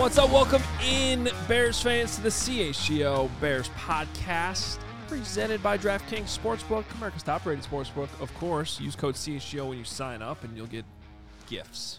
What's up? Welcome in, Bears fans, to the CHGO Bears podcast, presented by DraftKings Sportsbook, America's top-rated sportsbook. Of course, use code CHGO when you sign up, and you'll get gifts.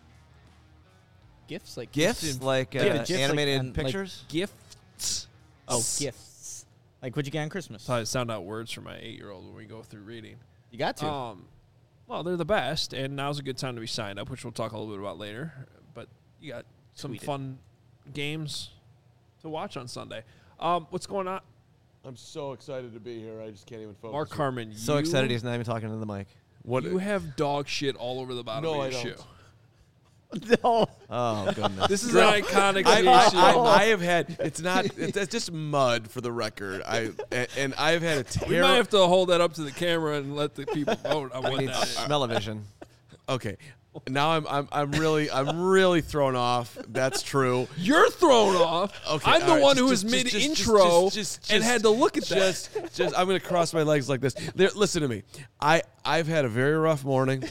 Gifts? Like gifts? Like animated pictures? Gifts. Oh, gifts. Like what'd you get on Christmas? That's how I sound out words for my 8-year-old when we go through reading. You got to. Well, they're the best, and now's a good time to be signed up, which we'll talk a little bit about later. But you got some fun games to watch on Sunday. What's going on? I'm so excited to be here. I just can't even focus. Mark Carman, So excited he's not even talking to the mic. What? You have dog shit all over the bottom of your shoe. No. Oh, goodness. This is an iconic I have had. It's just mud for the record. I've had a We might have to hold that up to the camera and let the people vote on what We need that is. smell-o-vision. Okay. Now I'm really thrown off. That's true. You're thrown off. Okay, I'm the all right, one just- who was just- mid-intro just- and had to look at that. Just I'm gonna cross my legs like this. Listen to me. I've had a very rough morning.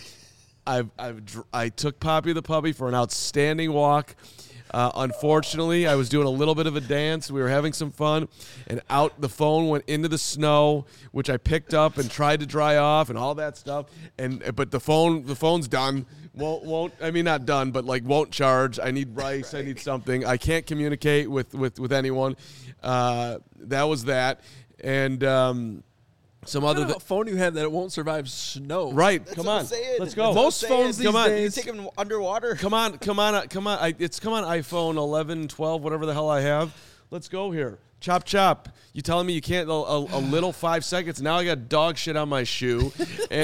I took Poppy the puppy for an outstanding walk. Unfortunately, I was doing a little bit of a dance. We were having some fun, and the phone went into the snow, which I picked up and tried to dry off and all that stuff. But the phone's done. Not done, but like won't charge. I need rice. I need something. I can't communicate with anyone. That was that, and some What other. kind of phone do you have that it won't survive snow? Right, That's come what on, I'm saying. let's go. Most phones these Come on. days. You take him underwater. Come on. It's come on iPhone 11, 12, whatever the hell I have. Let's go here. Chop. You telling me you can't a little 5 seconds? Now I got dog shit on my shoe.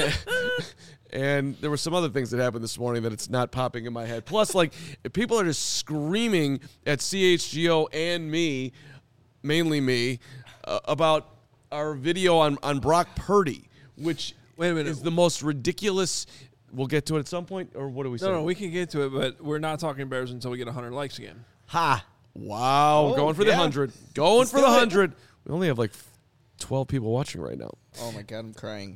And there were some other things that happened this morning that it's not popping in my head. Plus, like, people are just screaming at CHGO and me, mainly me, about our video on Brock Purdy, which Wait a minute. is the most ridiculous. We'll get to it at some point, or what do we say? No, we can get to it, but we're not talking Bears until we get 100 likes again. Ha! Wow, Oh, going for the 100. Let's do 100. We only have like 12 people watching right now. Oh my God, I'm crying.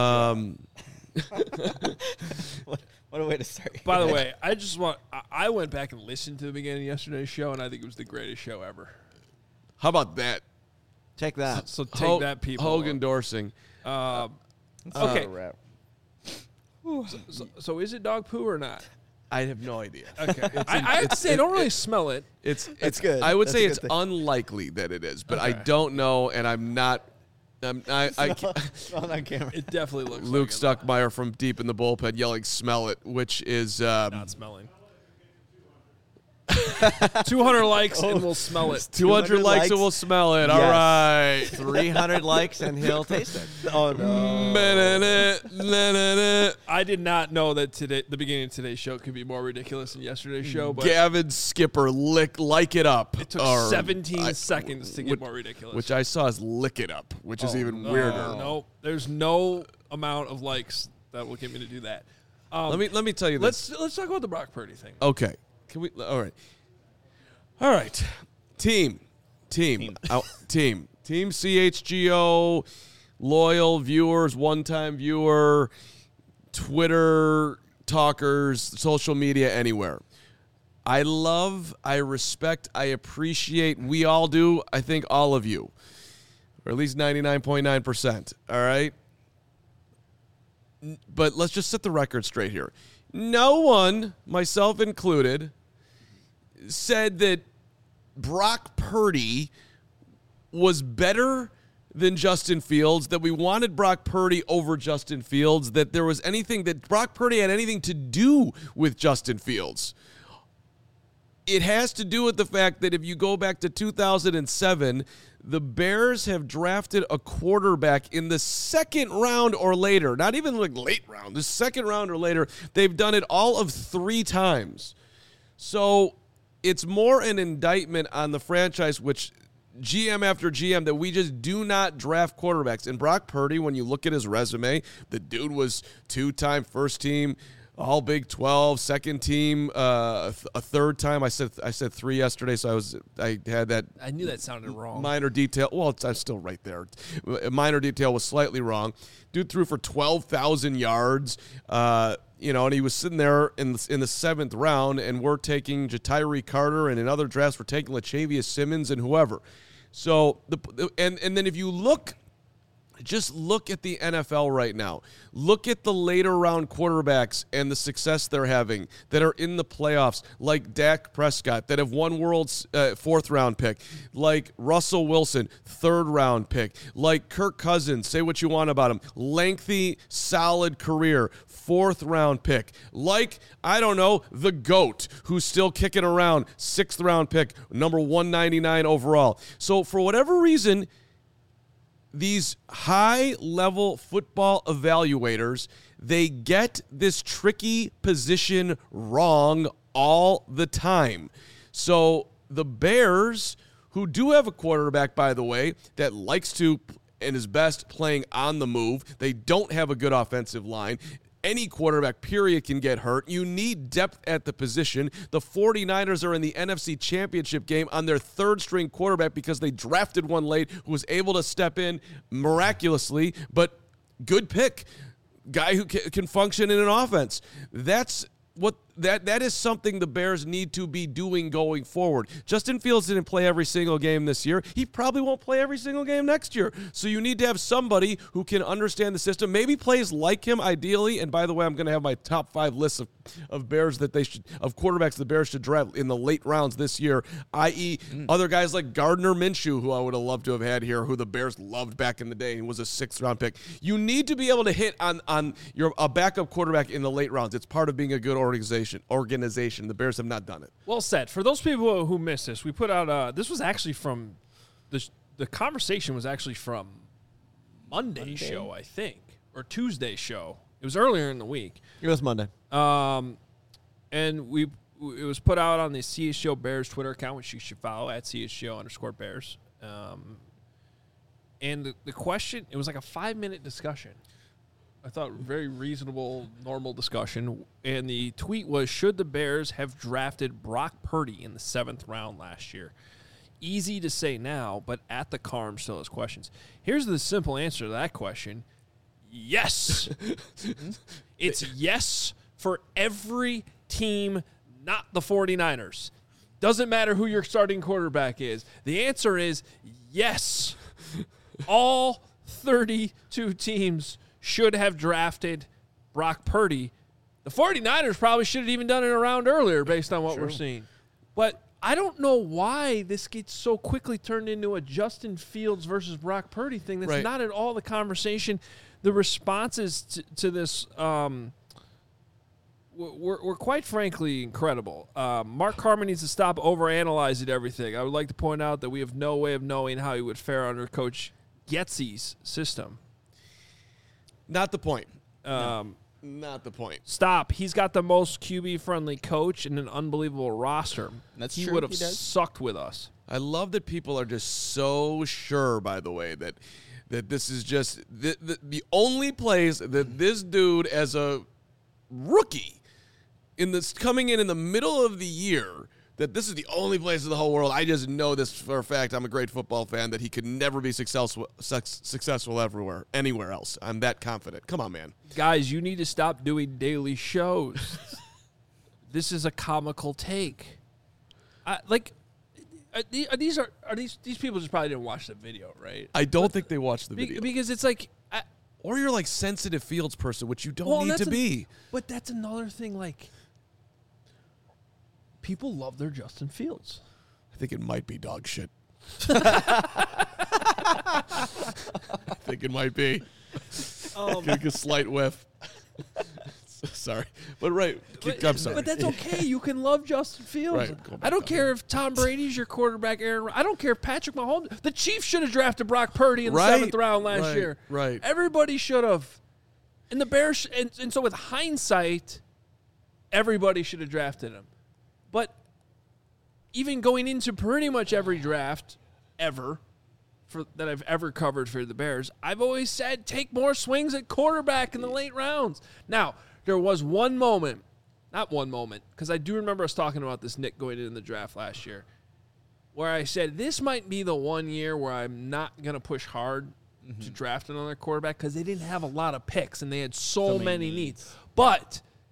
What a way to start. By the way, I went back and listened to the beginning of yesterday's show, and I think it was the greatest show ever. How about that? Take that. So take that, people. Hogan endorsing. Okay. So is it dog poo or not? I have no idea. Okay. I have to say, I don't really smell it. It's good. I would That's say a good it's thing. unlikely that it is, but I Okay. don't know, and I'm not. I On that camera. It definitely looks Luke like Stuckmeyer from deep in the bullpen yelling, "Smell it," which is not smelling. 200 likes and we'll smell it. 200 likes and we'll smell it. All right. 300 likes and he'll taste it. Oh no. I did not know that the beginning of today's show could be more ridiculous than yesterday's show, but Gavin Skipper, like it up. it took 17 seconds to get more ridiculous. Which I saw as lick it up, which is even weirder. No, there's no amount of likes that will get me to do that. Let me tell you this. Let's talk about the Brock Purdy thing. Okay. Can we? All right. Team CHGO, loyal viewers, one-time viewer, Twitter talkers, social media, anywhere. I love, I respect, I appreciate. We all do. I think all of you, or at least 99.9%. All right. But let's just set the record straight here. No one, myself included, said that Brock Purdy was better than Justin Fields, that we wanted Brock Purdy over Justin Fields, that there was anything that Brock Purdy had anything to do with Justin Fields. It has to do with the fact that if you go back to 2007, the Bears have drafted a quarterback in the second round or later, not even like late round, the second round or later. They've done it all of 3 times. So it's more an indictment on the franchise, which GM after GM, that we just do not draft quarterbacks. And Brock Purdy, when you look at his resume, the dude was 2-time first team, all Big 12, second team, a third time. I said 3 yesterday, so I had that. I knew that sounded wrong. Minor detail. Well, I'm still right there. A minor detail was slightly wrong. Dude threw for 12,000 yards. and he was sitting there in the seventh round, and we're taking Jatiri Carter, and in other drafts we're taking Latavius Simmons and whoever. So and then if you just look at the NFL right now. Look at the later round quarterbacks and the success they're having that are in the playoffs, like Dak Prescott, that have won world's fourth round pick, like Russell Wilson, third round pick, like Kirk Cousins, say what you want about him, lengthy, solid career, fourth round pick, like, I don't know, the GOAT, who's still kicking around, sixth round pick, number 199 overall. So for whatever reason, these high-level football evaluators, they get this tricky position wrong all the time. So the Bears, who do have a quarterback, by the way, that likes to and is best playing on the move, they don't have a good offensive line. Any quarterback, period, can get hurt. You need depth at the position. The 49ers are in the NFC Championship game on their third-string quarterback because they drafted one late who was able to step in miraculously, but good pick. Guy who can function in an offense. That's what that is something the Bears need to be doing going forward. Justin Fields didn't play every single game this year. He probably won't play every single game next year. So you need to have somebody who can understand the system, maybe plays like him ideally. And by the way, I'm going to have my top 5 lists of Bears that of quarterbacks the Bears should draft in the late rounds this year, i.e. other guys like Gardner Minshew, who I would have loved to have had here, who the Bears loved back in the day. He was a 6th round pick. You need to be able to hit on a backup quarterback in the late rounds. It's part of being a good organization. The Bears have not done it. Well said. For those people who missed this, we put out this was actually from the conversation was actually from Monday show, I think, or Tuesday show. It was earlier in the week. It was Monday. And it was put out on the CHGO Bears Twitter account, which you should follow at CHGO_Bears. And the question, it was like a 5-minute discussion. I thought very reasonable, normal discussion. And the tweet was, should the Bears have drafted Brock Purdy in the 7th round last year? Easy to say now, but at the Carm still has questions. Here's the simple answer to that question. Yes. It's yes for every team, not the 49ers. Doesn't matter who your starting quarterback is. The answer is yes. All 32 teams should have drafted Brock Purdy. The 49ers probably should have even done it a round earlier based on what we're seeing. But I don't know why this gets so quickly turned into a Justin Fields versus Brock Purdy thing. That's not at all the conversation. The responses to this were quite frankly incredible. Mark Carman needs to stop overanalyzing everything. I would like to point out that we have no way of knowing how he would fare under Coach Getsy's system. Not the point. Not the point. Stop. He's got the most QB-friendly coach and an unbelievable roster. That's he true. would have He does. sucked with us. I love that people are just so sure, by the way, that this is just the only place that this dude, as a rookie, coming in the middle of the year, that this is the only place in the whole world. I just know this for a fact. I'm a great football fan that he could never be successful anywhere else. I'm that confident. Come on, man. Guys, you need to stop doing daily shows. This is a comical take. These people just probably didn't watch the video, right? I don't think they watched the video. Because it's like... or you're like sensitive Fields person, which you don't need to be. But that's another thing, like... People love their Justin Fields. I think it might be dog shit. I think it might be. Take a slight whiff. Sorry. But I'm sorry. But that's okay. You can love Justin Fields. Right. I don't care if Tom Brady's your quarterback, Aaron. I don't care if Patrick Mahomes. The Chiefs should have drafted Brock Purdy in the 7th round last year. Right. Everybody should have. And the Bears, and so with hindsight, everybody should have drafted him. But even going into pretty much every draft ever that I've ever covered for the Bears, I've always said take more swings at quarterback in the late rounds. Now, there was one moment, not one moment, because I do remember us talking about this, Nick, going into the draft last year, where I said this might be the one year where I'm not going to push hard to draft another quarterback because they didn't have a lot of picks and they had so many needs. But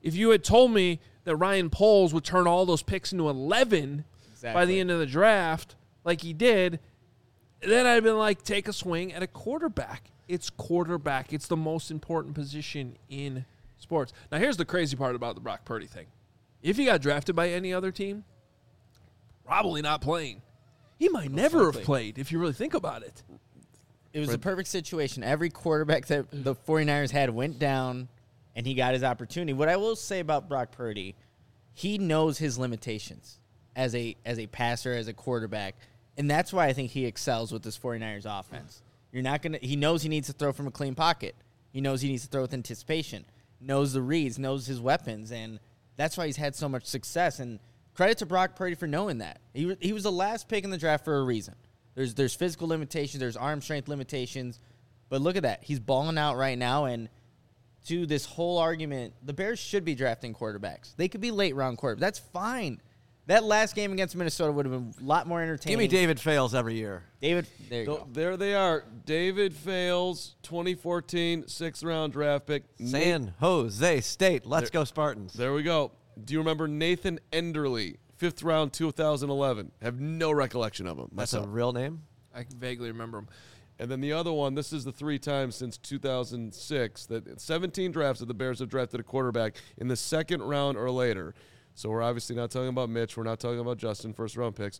If you had told me that Ryan Poles would turn all those picks into 11 by the end of the draft, like he did, then I'd been like, take a swing at a quarterback. It's quarterback. It's the most important position in sports. Now, here's the crazy part about the Brock Purdy thing. If he got drafted by any other team, probably not playing. He might never have played if you really think about it. It was a perfect situation. Every quarterback that the 49ers had went down, and he got his opportunity. What I will say about Brock Purdy, he knows his limitations as a passer, as a quarterback, and that's why I think he excels with this 49ers offense. He knows he needs to throw from a clean pocket. He knows he needs to throw with anticipation, knows the reads, knows his weapons, and that's why he's had so much success. And credit to Brock Purdy for knowing that. He was the last pick in the draft for a reason. There's physical limitations, there's arm strength limitations, but look at that. He's balling out right now, and to this whole argument, the Bears should be drafting quarterbacks. They could be late-round quarterbacks. That's fine. That last game against Minnesota would have been a lot more entertaining. Give me David Fales every year. David, there you go. There they are. David Fales, 2014 6th-round draft pick. San Jose State. Let's go Spartans. There we go. Do you remember Nathan Enderle, 5th round, 2011? Have no recollection of him. That's myself. a real name? I can vaguely remember him. And then the other one, this is the 3 times since 2006 that 17 drafts that the Bears have drafted a quarterback in the 2nd round or later. So we're obviously not talking about Mitch. We're not talking about Justin, 1st-round picks.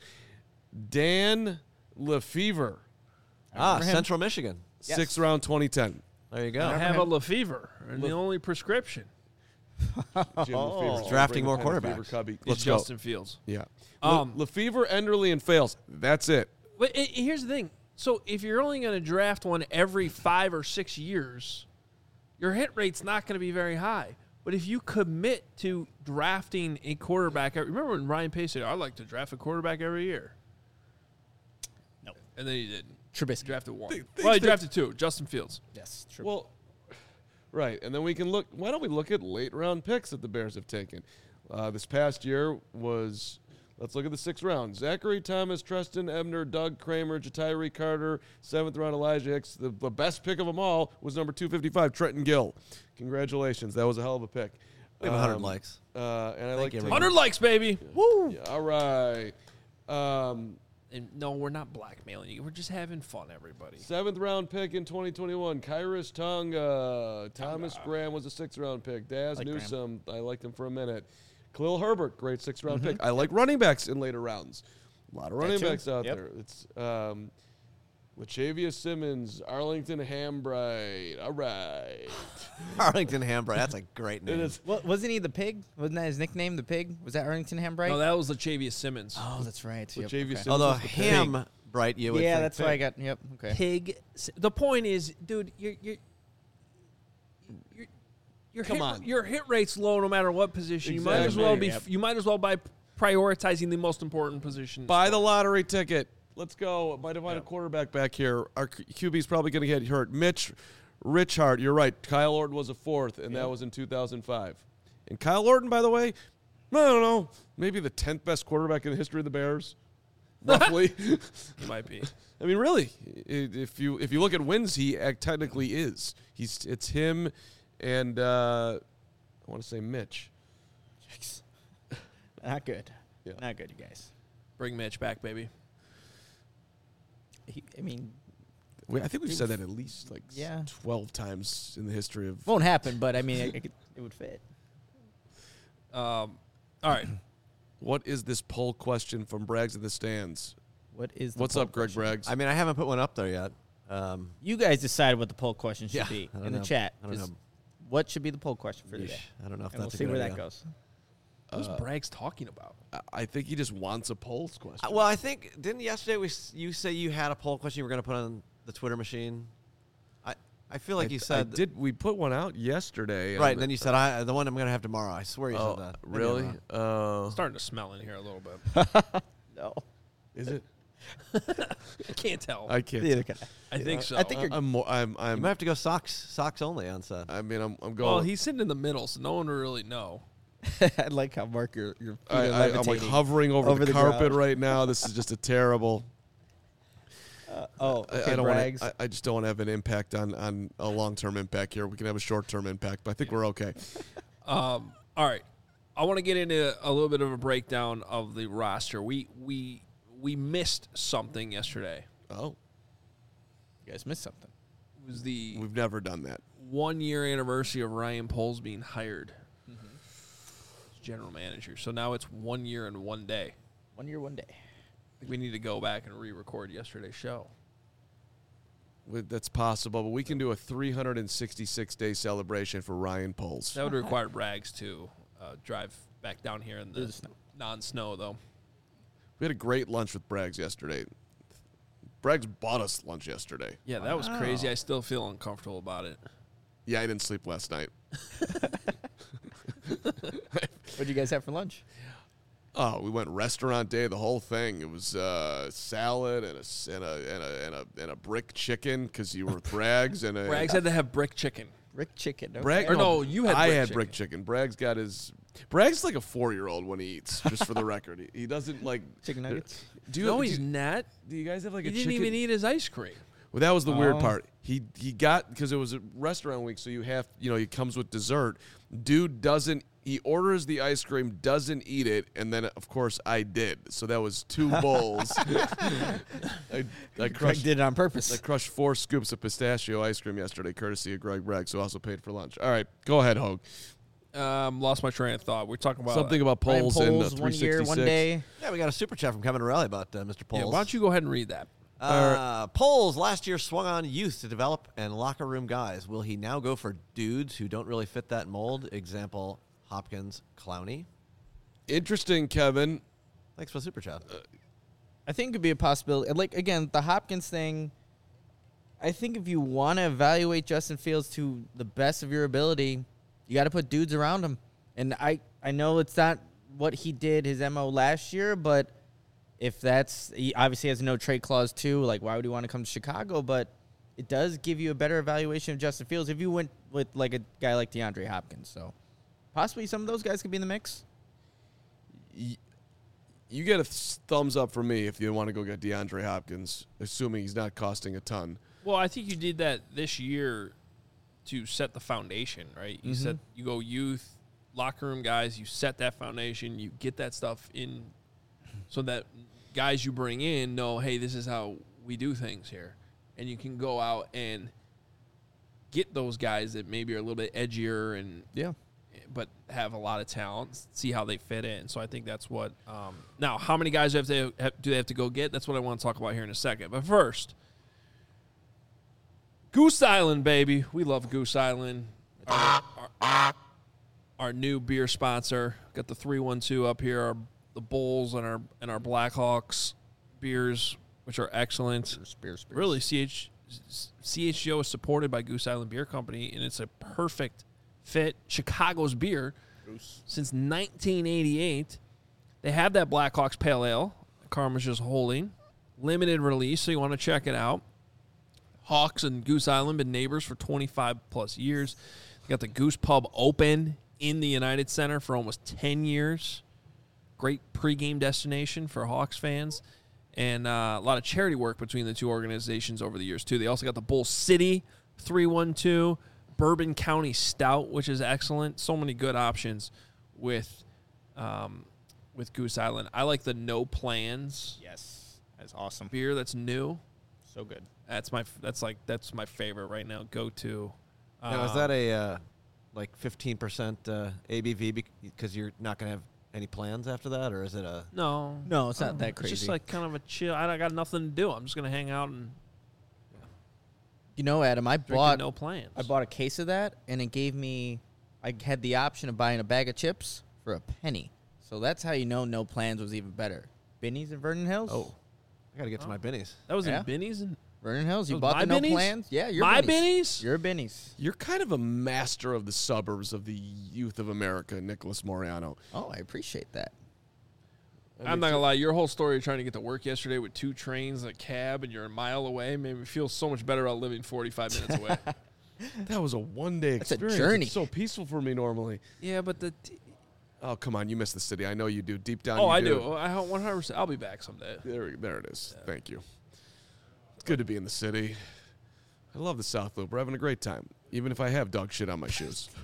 Dan Lefevre. Central Michigan. 6th round, 2010. There you go. I have a Lefevre, and the only prescription Jim Lefevre. Drafting Bring more the pen, quarterbacks. Lefevre cubby. is Let's go. Justin Fields. Yeah. Lefevre, Enderle, and Fales. That's it. But here's the thing. So if you're only going to draft one every 5 or 6 years, your hit rate's not going to be very high. But if you commit to drafting a quarterback, remember when Ryan Pace said, I'd like to draft a quarterback every year? No. And then he didn't. Trubisky. He drafted one. They Well, he drafted 2, Justin Fields. Yes, Trubisky. Well, right. And then we can look. Why don't we look at late-round picks that the Bears have taken? This past year was, let's look at the 6th round. Zachary Thomas, Treston Ebner, Doug Kramer, Jatiri Carter, 7th round Elijah Hicks. The best pick of them all was number 255, Trenton Gill. Congratulations. That was a hell of a pick. We have 100 likes. And I like you, taking- 100 likes, baby. Woo! Yeah, all right. And no, we're not blackmailing you. We're just having fun, everybody. 7th round pick in 2021, Kyrus Tonga. Thomas Graham was a 6th round pick. Daz Like Newsome, I liked him for a minute. Khalil Herbert, great 6th round pick. I like running backs in later rounds. A lot of running too. backs out Yep. there. It's Latavius Simmons, Arlington Hambright. All right. Arlington Hambright. That's a great It name. is. Wasn't he the pig? Wasn't that his nickname, the pig? Was that Arlington Hambright? No, that was Latavius Simmons. Oh, that's right. Yep, Latavius okay. Simmons. Although was the pick. Ham Bright, you would Yeah, think that's why I got. Yep. Okay. Pig. The point is, dude, Come on. Your hit rate's low no matter what position. You might as Exactly. well be. Yep. You might as well by prioritizing the most important position. Buy the lottery ticket. Let's go. Might have find a quarterback back here. Our QB's probably going to get hurt. Mitch Richard, you're right. Kyle Orton was a 4th, and that was in 2005. And Kyle Orton, by the way, I don't know, maybe the 10th best quarterback in the history of the Bears, roughly. He might be. I mean, really, if you look at wins, he technically is. It's him and I want to say Mitch. Not good. Yeah. Not good, you guys. Bring Mitch back, baby. I mean, I think we've said that at least like Yeah. 12 times in the history of. won't happen, but I mean, it would fit. All right. What is this poll question from Braggs in the stands? What is the What's poll up, Greg question? Braggs? I mean, I haven't put one up there yet. You guys decide what the poll question should Yeah, be I don't in the know. chat. I don't Just know. What should be the poll question for today? I don't know if And we'll that's a see good where idea. that goes. What's Braggs talking about? I think he just wants a polls question. Well, I think didn't yesterday you say you had a poll question you were going to put on the Twitter machine? I feel like you said did we put one out yesterday? right. And then you said the one I'm going to have tomorrow. I swear you said that. Maybe I'm really? wrong. Starting to smell in here a little bit. No. Is it? I can't tell. I can't. Neither can I think so. I think you're. I'm more. You might have to go socks only on set. I mean, I'm going. well, he's sitting in the middle, so no one will really know. I like how Mark your feet are I'm like levitating hovering over the carpet ground. right now. This is just a terrible. Okay, I don't Braggs. want. I just don't want to have an impact on a long-term impact here. We can have a short-term impact, but I think we're okay. All All right. I want to get into a little bit of a breakdown of the roster. We missed something yesterday. Oh, You guys missed something. It was the we've never done that. 1-year anniversary of Ryan Poles being hired as general manager. So now it's 1 year and 1 day. 1 year, 1 day. I think we need to go back and re-record yesterday's show. That's possible, but we can do a 366-day celebration for Ryan Poles. That would require Braggs to drive back down here in the snow. non-snow, though. We had a great lunch with Braggs yesterday. Braggs bought us lunch yesterday. Yeah, that was crazy. I still feel uncomfortable about it. Yeah, I didn't sleep last night. What'd you guys have for lunch? Oh, we went restaurant day, the whole thing. It was salad and a brick chicken because you were with Braggs and a Braggs had to have brick chicken. Brick chicken. Okay. Bragg, Or no, you had I brick had chicken. brick chicken. Braggs got his. Braggs like a 4-year-old when he eats. Just for the record, he doesn't like Chicken nuggets. Do you, No, do he's you- not. Do you guys have like He a didn't chicken? even eat his ice cream. Well, that was the weird Oh. part. He got because it was a restaurant week, so you have he comes with dessert. Dude doesn't. He orders the ice cream, doesn't eat it, and then of course I did. So that was 2 bowls. I Greg crushed. did it on purpose. I crushed 4 scoops of pistachio ice cream yesterday, courtesy of Greg Braggs, who also paid for lunch. All right, go ahead, Hogue. Lost my train of thought. We're talking about Something about Ryan polls in Poles, 1 year, 366. 1 day. Yeah, we got a super chat from Kevin O'Reilly about Mr. Poles. Yeah, why don't you go ahead and read that? Poles last year swung on youth to develop and locker room guys. Will he now go for dudes who don't really fit that mold? Example, Hopkins, Clowney. Interesting, Kevin. Thanks for the super chat. I think it could be a possibility. Like, again, the Hopkins thing, I think if you want to evaluate Justin Fields to the best of your ability, you got to put dudes around him. And I know it's not what he did, his MO last year, but if he obviously has a no trade clause too, like why would he want to come to Chicago? But it does give you a better evaluation of Justin Fields if you went with like a guy like DeAndre Hopkins. So possibly some of those guys could be in the mix. You get a thumbs up from me if you want to go get DeAndre Hopkins, assuming he's not costing a ton. Well, I think you did that this year to set the foundation, right? You said you go youth, locker room guys, you set that foundation, you get that stuff in so that guys you bring in know, hey, this is how we do things here. And you can go out and get those guys that maybe are a little bit edgier and but have a lot of talent, see how they fit in. So I think that's what now, how many guys do they have to go get? That's what I want to talk about here in a second. But first, Goose Island, baby. We love Goose Island. Our new beer sponsor. Got the 312 up here. The Bulls and our Blackhawks beers, which are excellent. Spears. Really, CHGO is supported by Goose Island Beer Company, and it's a perfect fit. Chicago's beer since 1988. They have that Blackhawks Pale Ale. Karma's just holding. Limited release, so you want to check it out. Hawks and Goose Island been neighbors for 25-plus years. They got the Goose Pub open in the United Center for almost 10 years. Great pregame destination for Hawks fans. And a lot of charity work between the two organizations over the years, too. They also got the Bull City 312, Bourbon County Stout, which is excellent. So many good options with Goose Island. I like the No Plans Yes. That's awesome. beer that's new. So good. That's my favorite right now. Go to. Now, is that a like 15% ABV because you're not going to have any plans after that, or is it a? No, No, it's not that It's crazy. just like kind of a chill. I got nothing to do. I'm just gonna hang out and You know, Adam, I drink bought No Plans. I bought a case of that, and it gave me. I had the option of buying a bag of chips for a penny. So that's how you know No Plans was even better. Binny's in Vernon Hills. Oh, I got to get to my bennies. That was Yeah. in Binny's. And Vernon Hills. You Those bought my the No Binnies? Plans. Yeah, you're My Binnies. Binnies? You're Binnies. You're kind of a master of the suburbs of the youth of America, Nicholas Moriano. Oh, I appreciate that. I'm not gonna lie. Your whole story of trying to get to work yesterday with 2 trains, a cab, and you're a mile away made me feel so much better about living 45 minutes away. That was a one-day That's a experience. journey. It's so peaceful for me normally. Yeah, but Oh, come on. You miss the city. I know you do. Deep down, oh, you I do. I 100%. I'll be back someday. There it is. Thank you. It's good to be in the city. I love the South Loop. We're having a great time, even if I have dog shit on my shoes.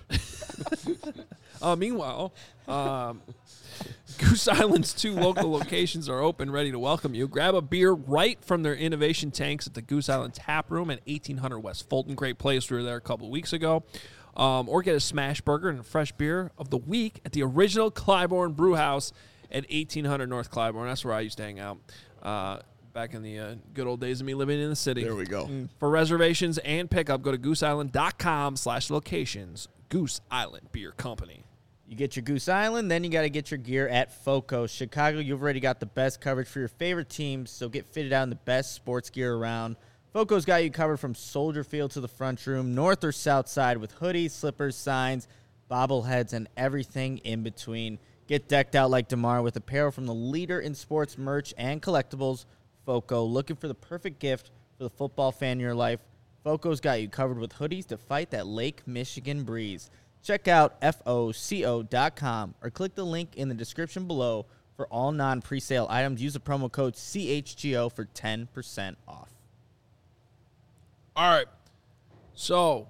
Meanwhile, Goose Island's 2 local locations are open, ready to welcome you. Grab a beer right from their innovation tanks at the Goose Island Tap Room at 1800 West Fulton. Great place. We were there a couple of weeks ago. Or get a smash burger and a fresh beer of the week at the original Clybourne Brew House at 1800 North Clybourne. That's where I used to hang out back in the good old days of me living in the city. There we go. For reservations and pickup, go to gooseisland.com/locations. Goose Island Beer Company. You get your Goose Island, then you got to get your gear at FOCO. Chicago, you've already got the best coverage for your favorite teams, so get fitted out in the best sports gear around. FOCO's got you covered from Soldier Field to the front room, north or south side, with hoodies, slippers, signs, bobbleheads, and everything in between. Get decked out like DeMar with apparel from the leader in sports merch and collectibles, FOCO. Looking for the perfect gift for the football fan in your life? FOCO's got you covered with hoodies to fight that Lake Michigan breeze. Check out FOCO.com or click the link in the description below for all non-presale items. Use the promo code CHGO for 10% off. All right. So,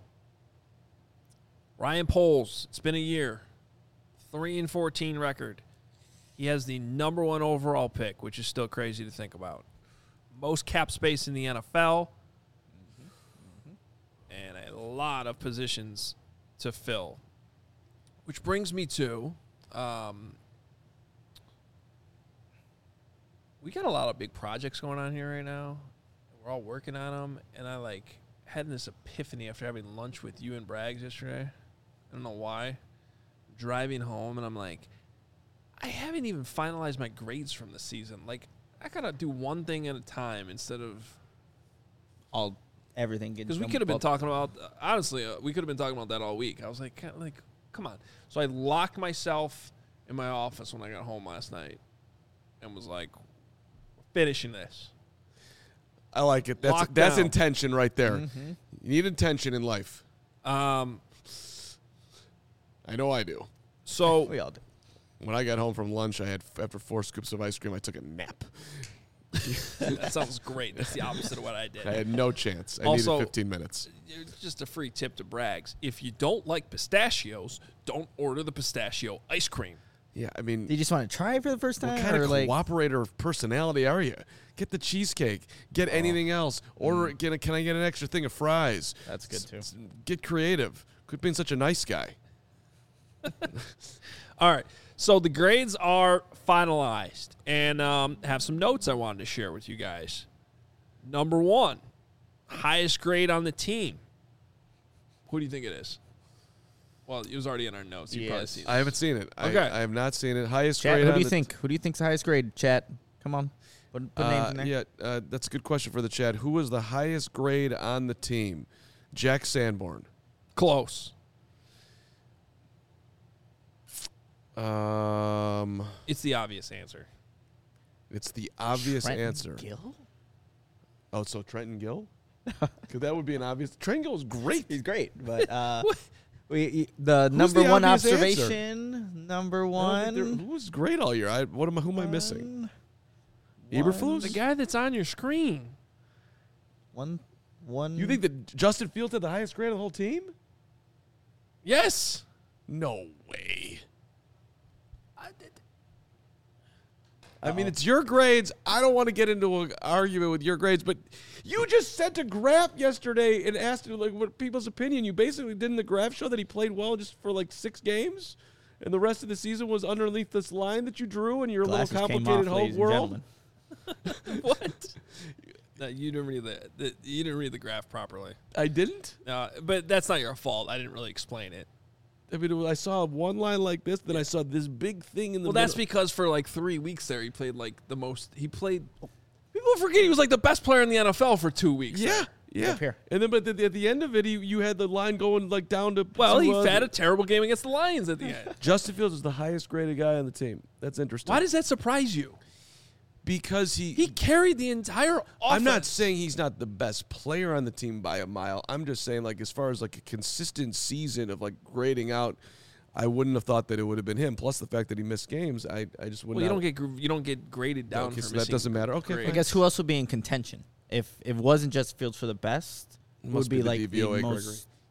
Ryan Poles, it's been a year. 3-14 record. He has the number 1 overall pick, which is still crazy to think about. Most cap space in the NFL. And a lot of positions to fill. Which brings me to, we got a lot of big projects going on here right now. We're all working on them, and I had this epiphany after having lunch with you and Braggs yesterday. I don't know why. Driving home, and I'm like, I haven't even finalized my grades from the season. Like, I gotta do one thing at a time instead of everything getting. Because we could have been talking about, honestly, we could have been talking about that all week. I was like, come on. So I locked myself in my office when I got home last night, and was like, finishing this. I like it. That's intention right there. Mm-hmm. You need intention in life. I know I do. So we all do. When I got home from lunch, after 4 scoops of ice cream, I took a nap. That sounds great. That's the opposite of what I did. I had no chance. I needed 15 minutes. Just a free tip to Braggs. If you don't like pistachios, don't order the pistachio ice cream. Yeah, I mean, do you just want to try it for the first time? What kind of cooperator of personality are you? Get the cheesecake. Get anything else. Order. Can I get an extra thing of fries? That's good too. Get creative. Quit being such a nice guy. All right. So the grades are finalized, and have some notes I wanted to share with you guys. Number 1, highest grade on the team. Who do you think it is? Well, it was already in our notes. You've probably seen it. I haven't seen it. Okay. I have not seen it. Highest Chat, grade. Who do you think? Who do you think's the highest grade? Chat, come on. Put names in there. Yeah, that's a good question for the chat. Who was the highest grade on the team? Jack Sanborn. Close. It's the obvious answer. It's the obvious Trenton answer. Gill? Oh, so Trenton Gill? Because that would be an obvious. Trenton Gill is great. He's great, but the number 1 observation. Answer? Number 1. Who was great all year? Who am I missing? Eberflus? The guy that's on your screen. One. You think that Justin Fields had the highest grade of the whole team? Yes. No way. I mean, it's your grades. I don't want to get into an argument with your grades, but you just sent a graph yesterday and asked what people's opinion. You basically didn't the graph show that he played well just for 6 games, and the rest of the season was underneath this line that you drew in your little complicated whole world. What? No, you didn't read you didn't read the graph properly. I didn't? But that's not your fault. I didn't really explain it. I mean, I saw one line like this, then I saw this big thing in the middle. Well, that's because for 3 weeks there, he played the most. He played. People forget he was the best player in the NFL for 2 weeks. Yeah, yeah. And then, but at the end of it, you had the line going down to. Well, he had a terrible game against the Lions at the end. Justin Fields is the highest graded guy on the team. That's interesting. Why does that surprise you? Because he carried the entire offense. I'm not saying he's not the best player on the team by a mile. I'm just saying, as far as a consistent season of grading out, I wouldn't have thought that it would have been him. Plus the fact that he missed games, I just wouldn't. Well, you don't get graded down. Okay, so that doesn't matter. Okay, I guess who else would be in contention if it wasn't just Fields for the best? It would be the DVOA, most.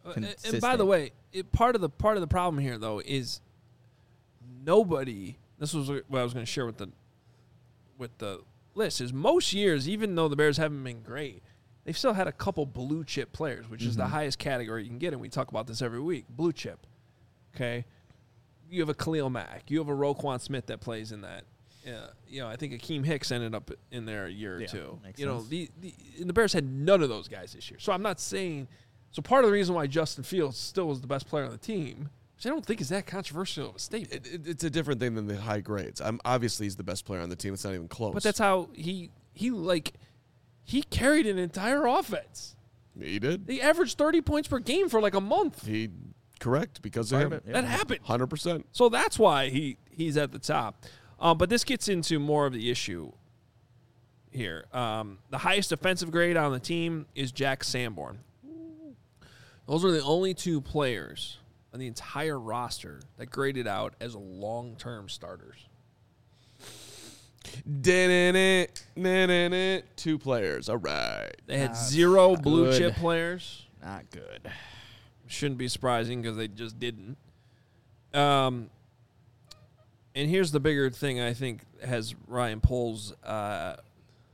consistent. And by the way, part of the problem here though is nobody. This was what I was going to share with the list. Is most years, even though the Bears haven't been great, they've still had a couple blue chip players, which is the highest category you can get, and we talk about this every week. Blue chip, okay. You have a Khalil Mack. You have a Roquan Smith that plays in that. I think Akeem Hicks ended up in there a year or two. Sense. The Bears had none of those guys this year. So I'm not saying. So part of the reason why Justin Fields still was the best player on the team, which I don't think is that controversial of a statement. It's a different thing than the high grades. Obviously he's the best player on the team. It's not even close. But that's how he carried an entire offense. He did. He averaged 30 points per game for like a month. Correct, because of him. That happened. 100%. So that's why he's at the top. But this gets into more of the issue here. The highest offensive grade on the team is Jack Sanborn. Those are the only two players on the entire roster that graded out as long-term starters. 2 players. All right. They had 0 blue chip players. Not good. Shouldn't be surprising because they just didn't. And here's the bigger thing I think has Ryan Poles has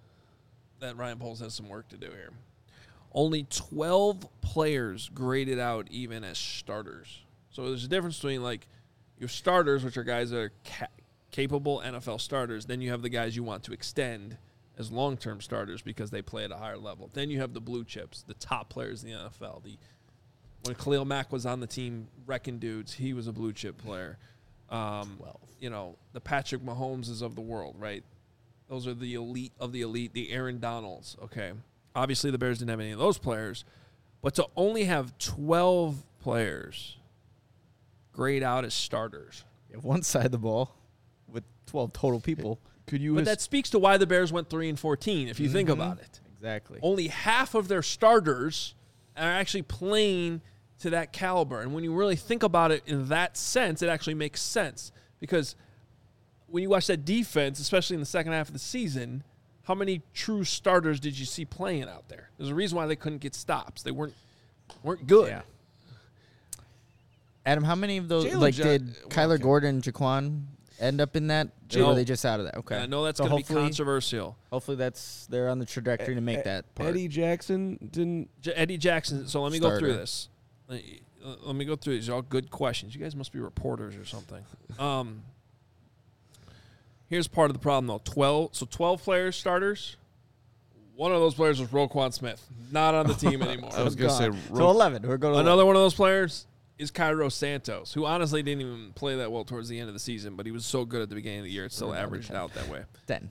some work to do here. Only 12 players graded out even as starters. So there's a difference between like your starters, which are guys that are capable NFL starters. Then you have the guys you want to extend as long-term starters because they play at a higher level. Then you have the blue chips, the top players in the NFL. When Khalil Mack was on the team wrecking dudes, he was a blue chip player. 12. The Patrick Mahomeses of the world, right? Those are the elite of the elite, the Aaron Donalds, okay? Obviously, the Bears didn't have any of those players, but to only have 12 players grade out as starters. You have one side of the ball with 12 total people. But that speaks to why the Bears went 3-14, if you think about it. Exactly. Only half of their starters are actually playing to that caliber. And when you really think about it in that sense, it actually makes sense. Because when you watch that defense, especially in the second half of the season, how many true starters did you see playing out there? There's a reason why they couldn't get stops. They weren't good. Yeah. Adam, how many of those, did Kyler okay. Gordon, Jaquan end up in that? Or were they just out of that? Okay. I know that's going to be controversial. Hopefully they're on the trajectory to make that part. Eddie Jackson didn't. Eddie Jackson. So let me go through this. Let me go through these. These are all good questions. You guys must be reporters or something. Here's part of the problem, though. 12 players, starters. One of those players was Roquan Smith. Not on the team anymore. I was going to say. So 11. We're going to Another one of those players is Cairo Santos, who honestly didn't even play that well towards the end of the season, but he was so good at the beginning of the year, it still averaged out that way. 10.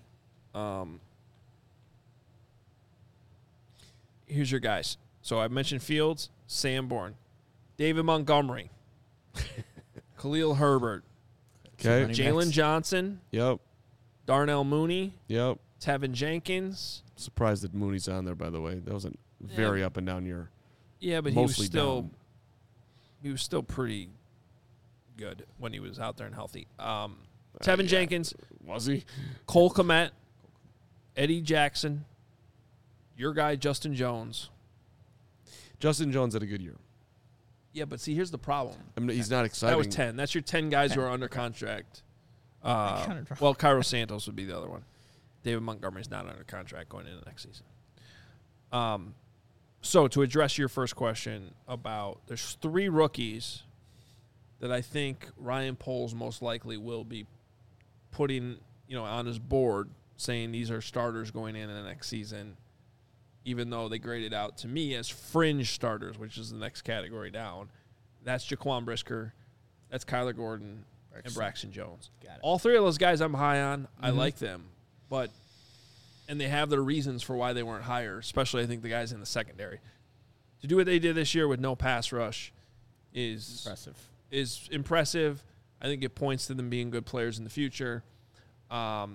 Here's your guys. So I mentioned Fields, Sanborn, David Montgomery, Khalil Herbert, Okay. Jalen Johnson, Yep. Darnell Mooney, Yep. Tevin Jenkins. Surprised that Mooney's on there, by the way. That was a very up and down year. Yeah, but Mostly he was still pretty good when he was out there and healthy. Tevin Jenkins, Was he? Cole Kmet, Eddie Jackson, your guy Justin Jones. Justin Jones had a good year. Yeah, but see, here's the problem. I mean, he's not exciting. That was 10. That's your 10 guys who are under contract. Well, Cairo Santos would be the other one. David Montgomery's not under contract going into next season. So to address your first question about, there's 3 rookies that I think Ryan Poles most likely will be putting, on his board, saying these are starters going in the next season, even though they graded out to me as fringe starters, which is the next category down. That's Jaquan Brisker, that's Kyler Gordon, and Braxton Jones. All 3 of those guys I'm high on. I like them, and they have their reasons for why they weren't higher, especially I think the guys in the secondary. To do what they did this year with no pass rush is impressive. I think it points to them being good players in the future. But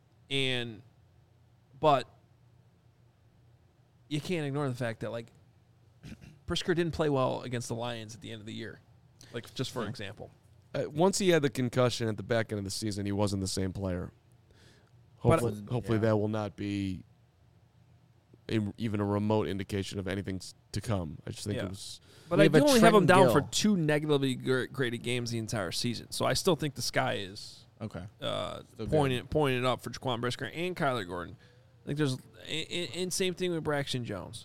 you can't ignore the fact that, Brisker didn't play well against the Lions at the end of the year, just for example. Once he had the concussion at the back end of the season, he wasn't the same player. Hopefully that will not be even a remote indication of anything to come. I just think Yeah. it was. But We I have a do only have him Trenton down for Gill. 2 negatively graded games the entire season. So I still think the sky is Okay. pointed up for Jaquan Brisker and Kyler Gordon. I think there's and same thing with Braxton Jones.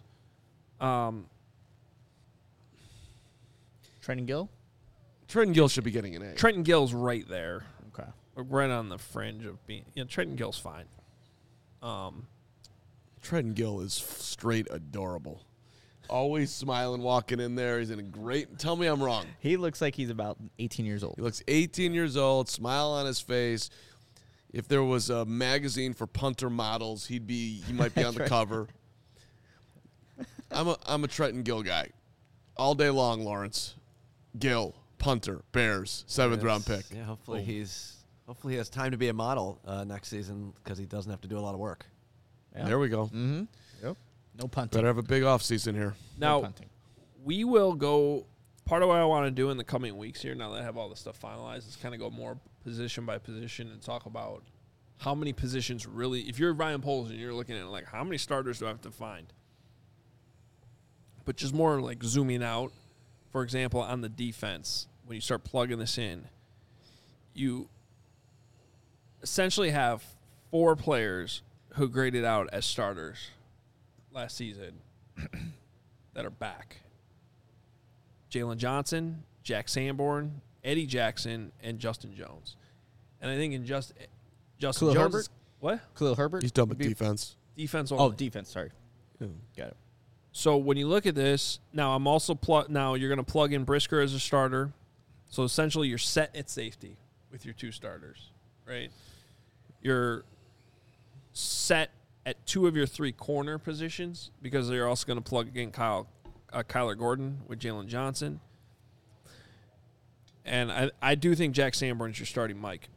Trenton Gill? Trenton Gill should be getting an A. Trenton Gill's right there, Okay. right on the fringe of being. Yeah, Trenton Gill's fine. Trenton Gill is straight adorable. Always smiling, walking in there. He's in a great. Tell me I'm wrong. He looks like he's about 18 years old. He looks 18 years old, smile on his face. If there was a magazine for punter models, he might be on the cover. I'm a Trenton Gill guy. All day long, Lawrence. Gill, punter, Bears, 7th round pick. Yeah, hopefully he has time to be a model next season because he doesn't have to do a lot of work. Yeah. There we go. Mm-hmm. Yep. No punting. Better have a big offseason here. Now, No punting. we will go. Part of what I want to do in the coming weeks here, now that I have all this stuff finalized, is kind of go more position by position and talk about how many positions really. If you're Ryan Poles and you're looking at it like, how many starters do I have to find? But just more like zooming out. For example, on the defense, when you start plugging this in, you essentially have 4 players who graded out as starters last season that are back. Jalen Johnson, Jack Sanborn, Eddie Jackson, and Justin Jones. And I think in Justin Khalil Jones, Herbert? what? Khalil Herbert? He's done with defense. Defense Oh, only. defense. Sorry. Yeah. Got it. So when you look at this, now I'm also now you're going to plug in Brisker as a starter. So essentially you're set at safety with your 2 starters, right? You're set at 2 of your 3 corner positions because you're also going to plug in Kyler Gordon with Jalen Johnson. And I do think Jack Sanborn's your starting Mike.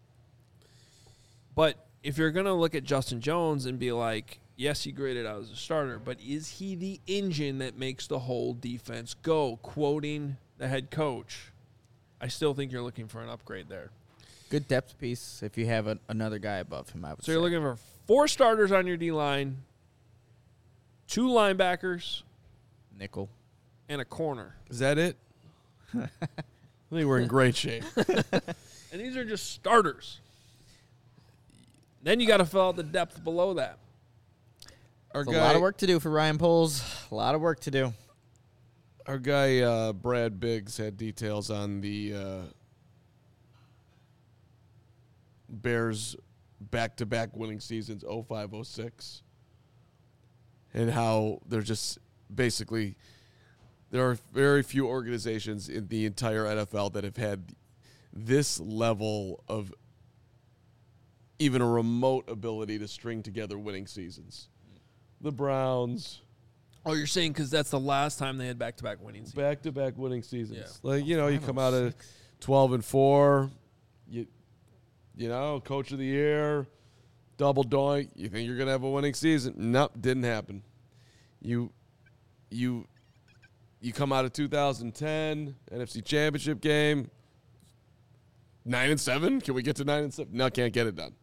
But if you're going to look at Justin Jones and be like, yes, he graded out as a starter, but is he the engine that makes the whole defense go? Quoting the head coach, I still think you're looking for an upgrade there. Good depth piece if you have another guy above him, I would So say. you're looking for 4 starters on your D-line, 2 linebackers, Nickel. and a corner. Is that it? I think we're in great shape. And these are just starters. Then you got to fill out the depth below that. Our It's a lot of work to do for Ryan Poles. A lot of work to do. Our guy Brad Biggs had details on the Bears back-to-back winning seasons 05-06 and how they're just basically there are very few organizations in the entire NFL that have had this level of even a remote ability to string together winning seasons. The Browns, Oh, you're saying because that's the last time they had back-to-back winning seasons. back-to-back winning seasons. Yeah. Like, you come out of 12-4, you know, coach of the year, double doink. You think you're gonna have a winning season? Nope, didn't happen. You come out of 2010 NFC Championship game, 9-7. Can we get to 9-7? No, can't get it done.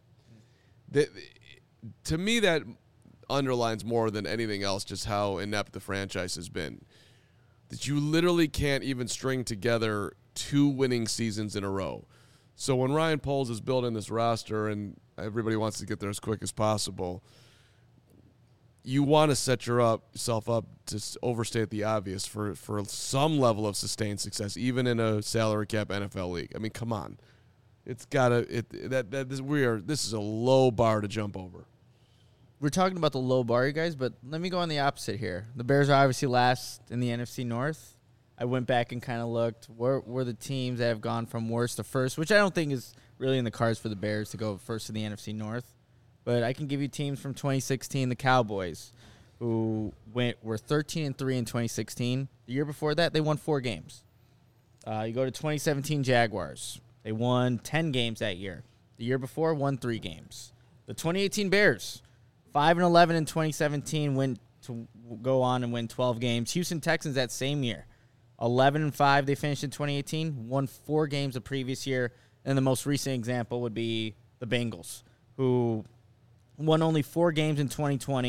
To me, that underlines more than anything else just how inept the franchise has been. That you literally can't even string together 2 winning seasons in a row. So when Ryan Poles is building this roster and everybody wants to get there as quick as possible, you want to set yourself up to overstate the obvious for some level of sustained success, even in a salary cap NFL league. I mean, come on, it's gotta this is a low bar to jump over. We're talking about the low bar, you guys, but let me go on the opposite here. The Bears are obviously last in the NFC North. I went back and kind of looked. Were the teams that have gone from worst to first, which I don't think is really in the cards for the Bears to go first in the NFC North. But I can give you teams from 2016, the Cowboys, who were 13-3 in 2016. The year before that, they won 4 games. You go to 2017 Jaguars. They won 10 games that year. The year before, won 3 games. The 2018 Bears, 5-11 in 2017, went to go on and win 12 games. Houston Texans that same year, 11-5 they finished in 2018, won 4 games the previous year. And the most recent example would be the Bengals, who won only 4 games in 2020,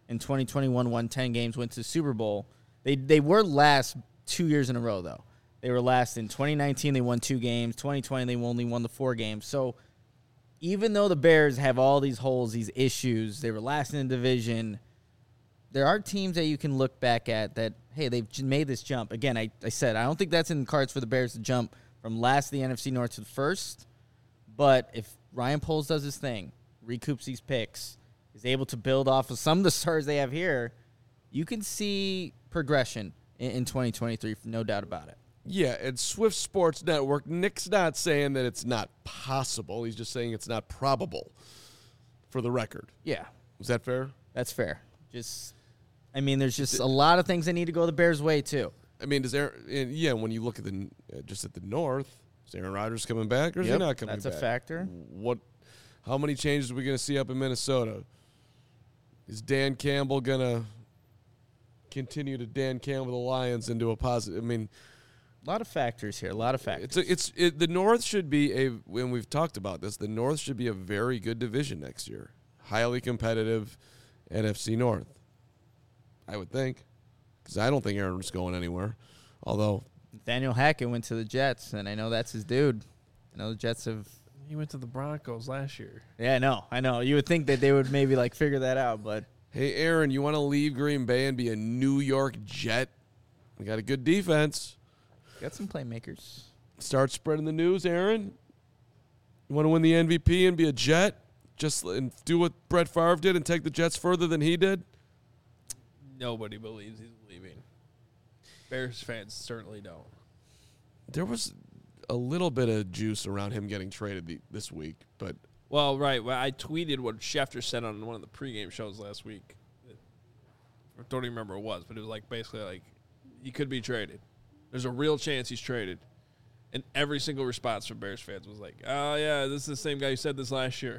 In 2021, won 10 games, went to the Super Bowl. They were last 2 years in a row, though. They were last in 2019. They won 2 games. 2020, they only won the 4 games. So even though the Bears have all these holes, these issues, they were last in the division, there are teams that you can look back at that, hey, they've made this jump. Again, I said I don't think that's in the cards for the Bears to jump from last of the NFC North to the first. But if Ryan Poles does his thing, recoups these picks, is able to build off of some of the stars they have here, you can see progression in 2023, no doubt about it. Yeah, and Swift Sports Network, Nick's not saying that it's not possible. He's just saying it's not probable, for the record. Yeah. Is that fair? That's fair. There's just a lot of things that need to go the Bears' way, too. I mean, when you look at the North, is Aaron Rodgers coming back or is he not coming back? That's a factor. How many changes are we going to see up in Minnesota? Is Dan Campbell going to continue to Dan Campbell the Lions into a positive? I mean, a lot of factors here. A lot of factors. The North should be when we've talked about this, the North should be a very good division next year. Highly competitive NFC North, I would think, because I don't think Aaron's going anywhere. Although Nathaniel Hackett went to the Jets, and I know that's his dude. I know the Jets have. He went to the Broncos last year. Yeah, I know. You would think that they would maybe figure that out, but hey, Aaron, you want to leave Green Bay and be a New York Jet? We got a good defense. Got some playmakers. Start spreading the news, Aaron. You want to win the MVP and be a Jet? And do what Brett Favre did and take the Jets further than he did? Nobody believes he's leaving. Bears fans certainly don't. There was a little bit of juice around him getting traded this week, but well, right. Well, I tweeted what Schefter said on one of the pregame shows last week. I don't even remember what it was, but it was basically he could be traded. There's a real chance he's traded. And every single response from Bears fans was oh, yeah, this is the same guy who said this last year.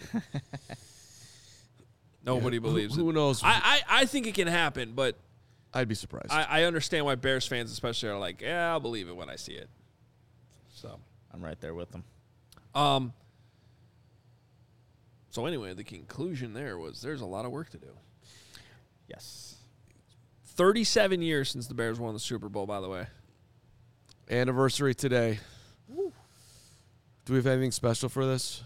Nobody believes it. Who knows? I think it can happen, but I'd be surprised. I understand why Bears fans especially are yeah, I'll believe it when I see it. So I'm right there with them. So anyway, the conclusion there was there's a lot of work to do. Yes. 37 years since the Bears won the Super Bowl, by the way. Anniversary today. Woo. Do we have anything special for this?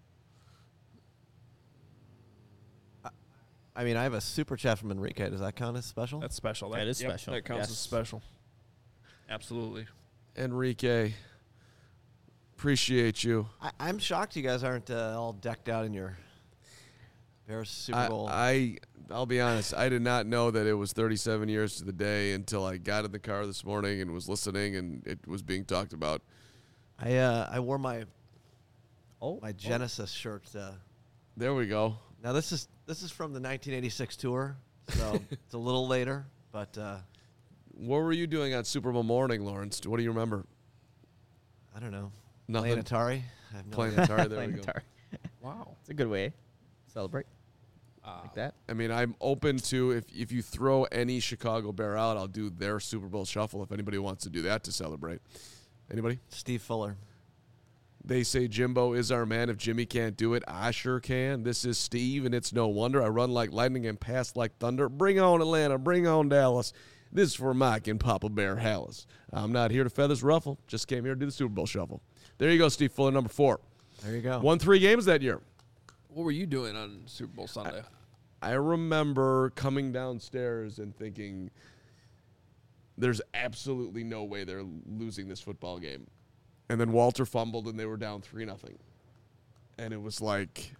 I mean, I have a super chat from Enrique. Does that count as special? That's special. That is special. That counts Yes. as special. Absolutely. Enrique, appreciate you. I'm shocked you guys aren't all decked out in your Bears Super Bowl. I'll be honest. I did not know that it was 37 years to the day until I got in the car this morning and was listening, and it was being talked about. I wore my Genesis shirt. There we go. Now this is from the 1986 tour, so it's a little later. But what were you doing on Super Bowl morning, Lawrence? What do you remember? I don't know. Nothing. Playing Atari. I have no Playing idea. Atari. There we go. Atari. Wow. It's a good way to celebrate like that. I mean, I'm open to if you throw any Chicago Bear out, I'll do their Super Bowl shuffle if anybody wants to do that to celebrate. Anybody? Steve Fuller. They say Jimbo is our man. If Jimmy can't do it, I sure can. This is Steve, and it's no wonder. I run like lightning and pass like thunder. Bring on Atlanta. Bring on Dallas. This is for Mike and Papa Bear Hallis. I'm not here to feathers ruffle. Just came here to do the Super Bowl shuffle. There you go, Steve Fuller, number 4. There you go. Won 3 games that year. What were you doing on Super Bowl Sunday? I remember coming downstairs and thinking, there's absolutely no way they're losing this football game. And then Walter fumbled, and they were down 3-0. And it was like,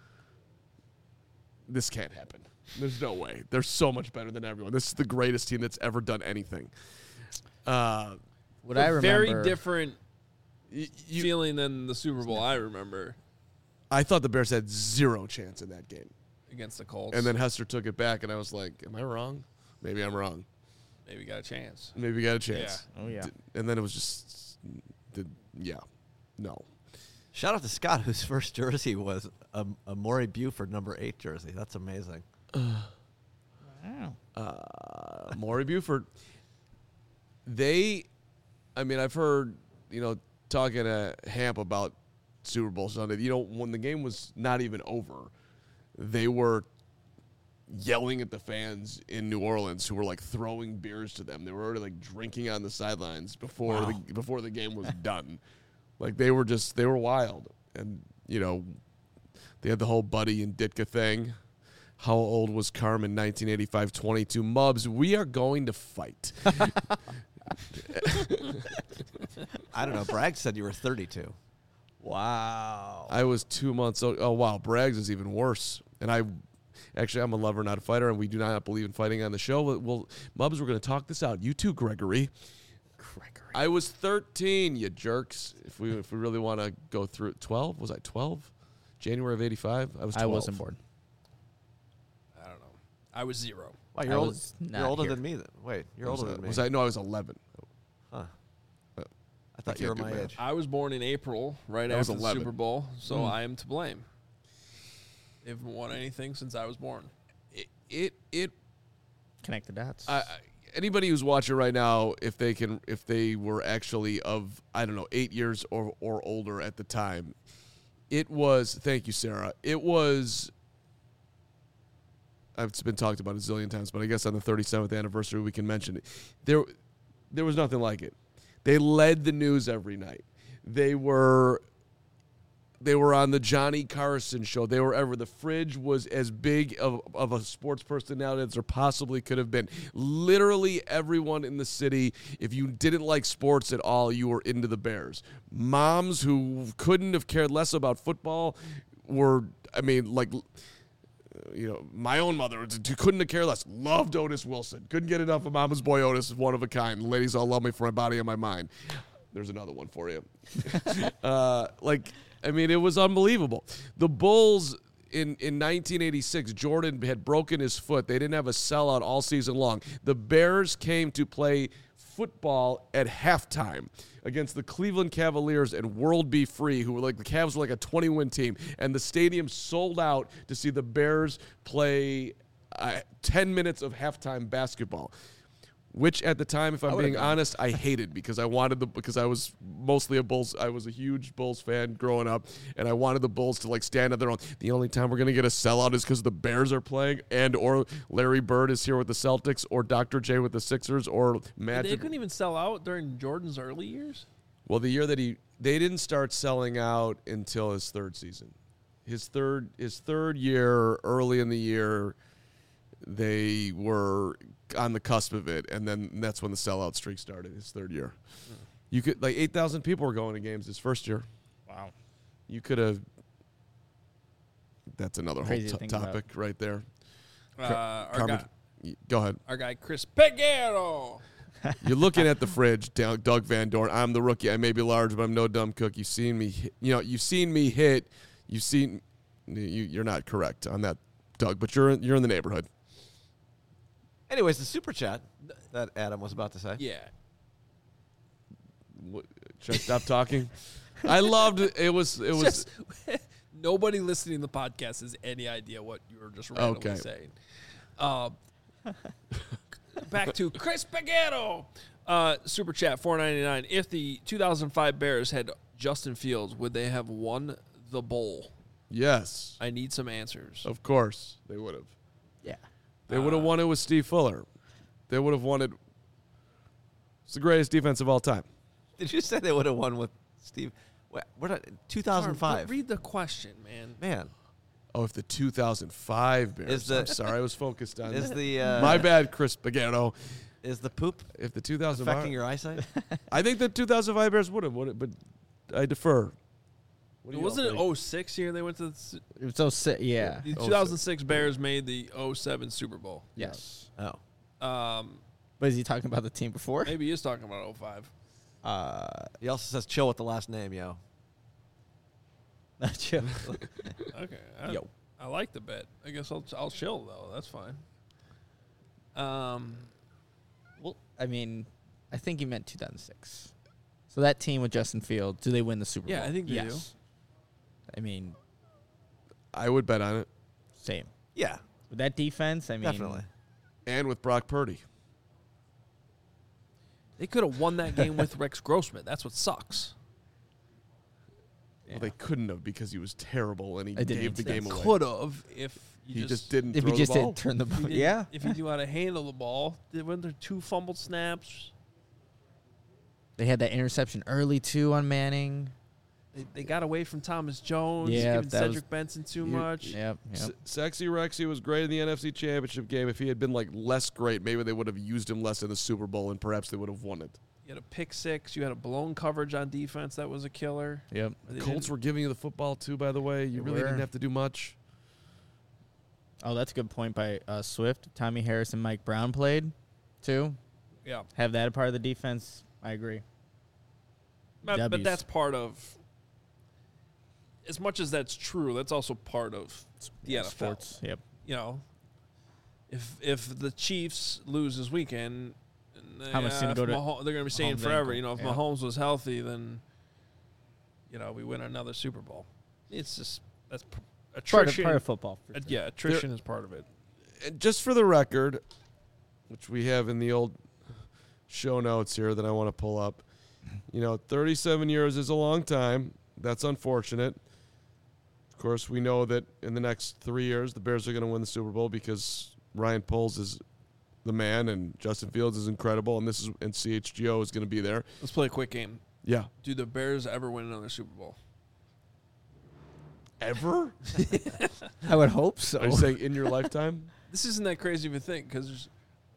this can't happen. There's no way. They're so much better than everyone. This is the greatest team that's ever done anything. What I remember, very different feeling than the Super Bowl I remember. I thought the Bears had 0 chance in that game. Against the Colts. And then Hester took it back, and I was like, am I wrong? Maybe I'm wrong. Maybe we got a chance. Maybe we got a chance. Yeah. Oh, yeah. And then it was just, no. Shout out to Scott, whose first jersey was a Maury Buford number 8 jersey. That's amazing. Wow. Maury Buford. I've heard, talking to Hamp about Super Bowl Sunday, when the game was not even over, they were, yelling at the fans in New Orleans who were like throwing beers to them. They were already like drinking on the sidelines before the game was done. Like they were wild. And you know, they had the whole Buddy and Ditka thing. How old was Carmen? 1985, 22. Mubs, we are going to fight. I don't know. Bragg said you were 32. Wow. I was 2 months old. Oh, wow. Braggs is even worse. And I'm a lover, not a fighter, and we do not believe in fighting on the show. Well, Mubs, we're going to talk this out. You too, Gregory. I was 13, you jerks. If we really want to go through it. 12? Was I 12? January of 85? I was 12. I wasn't born. I don't know. I was 0. Wow, you're older than me then. Wait, you're older than me. No, I was 11. Huh. I thought you were my age. I was born in April, right after the Super Bowl, so I am to blame. They haven't won anything since I was born. It Connect the dots. Anybody who's watching right now, if they were actually of, I don't know, 8 years or older at the time, it was, thank you, Sarah. It was, it's been talked about a zillion times, but I guess on the 37th anniversary we can mention it. There was nothing like it. They led the news every night. They were on the Johnny Carson show. The fridge was as big of a sports personality as there possibly could have been. Literally everyone in the city, if you didn't like sports at all, you were into the Bears. Moms who couldn't have cared less about football were, my own mother couldn't have cared less. Loved Otis Wilson. Couldn't get enough of Mama's Boy Otis. One of a kind. Ladies all love me for my body and my mind. There's another one for you. It was unbelievable. The Bulls in 1986, Jordan had broken his foot. They didn't have a sellout all season long. The Bears came to play football at halftime against the Cleveland Cavaliers and World Be Free, who were like, the Cavs were like a 20-win team, and the stadium sold out to see the Bears play 10 minutes of halftime basketball. Which at the time, if I'm being honest, I hated because I was mostly a Bulls. I was a huge Bulls fan growing up, and I wanted the Bulls to like stand on their own. The only time we're gonna get a sellout is because the Bears are playing, and or Larry Bird is here with the Celtics, or Dr. J with the Sixers, or Magic. They couldn't even sell out during Jordan's early years. Well, the year that they didn't start selling out until his third season. His third year, early in the year, they were on the cusp of it, and then that's when the sellout streak started. His third year, you could 8,000 people were going to games his first year. Wow, you could have. That's another Crazy whole topic right there. Go ahead. Our guy Chris Peguero. You're looking at the fridge, Doug Van Dorn. I'm the rookie. I may be large, but I'm no dumb cook. You've seen me. You've seen me hit. You're not correct on that, Doug, but you're in the neighborhood. Anyways, the super chat that Adam was about to say. Yeah. Should I stop talking? I loved it. It was just, nobody listening to the podcast has any idea what you were just randomly saying. Back to Chris Peguero. Super chat $4.99. If the 2005 Bears had Justin Fields, would they have won the bowl? Yes. I need some answers. Of course they would have. Yeah. They would have won it with Steve Fuller. They would have won it. It's the greatest defense of all time. Did you say they would have won with Steve? What 2005? Read the question, man. Man. Oh, if the 2005 Bears. I'm sorry, I was focused on my bad, Chris Peguero. Is the poop if the 2005 affecting your eyesight? I think the 2005 Bears would have, but I defer. Wasn't it 06 year they went to it was 06, yeah. The 2006 Bears made the 07 Super Bowl. Yes. Oh. But is he talking about the team before? Maybe he is talking about 05. He also says chill with the last name, yo. Chill. Okay. Yo. I like the bet. I guess I'll chill though. That's fine. Well, I mean, I think he meant 2006. So that team with Justin Fields, do they win the Super Bowl? Yeah, I think they do. I mean, I would bet on it. Same. Yeah. With that defense, I mean. Definitely. And with Brock Purdy. They could have won that game with Rex Grossman. That's what sucks. Yeah. Well, they couldn't have because he was terrible and he gave the game away. Could have if He just didn't If throw he just the ball. didn't turn the If he ball. didn't- Yeah. If he knew how to handle the ball, weren't there 2 fumbled snaps? They had that interception early, too, on Manning. They got away from Thomas Jones, Yeah, giving that Cedric was- Benson too much. Yep. Sexy Rexy was great in the NFC Championship game. If he had been like less great, maybe they would have used him less in the Super Bowl, and perhaps they would have won it. You had a pick 6. You had a blown coverage on defense that was a killer. Yep. They Colts didn't- were giving you the football too, by the way. You They really were. didn't have to do much. Oh, that's a good point by Swift. Tommy Harris and Mike Brown played, too. Yeah. Have that a part of the defense. I agree. But W's. that's part of, as much as that's true, that's also part of the NFL. Sports. Yep. You know, if the Chiefs lose this weekend, How much is gonna go to they're going to be saying Mahomes' forever. ankle. You know, if Yeah. Mahomes was healthy, then we win another Super Bowl. It's just that's attrition. Part of football. for sure. Yeah, attrition is part of it. And just for the record, which we have in the old show notes here that I want to pull up, 37 years is a long time. That's unfortunate. Of course, we know that in the next 3 years, the Bears are going to win the Super Bowl because Ryan Poles is the man and Justin Fields is incredible, and CHGO is going to be there. Let's play a quick game. Yeah. Do the Bears ever win another Super Bowl? Ever? I would hope so. Are you saying in your lifetime? This isn't that crazy of a thing because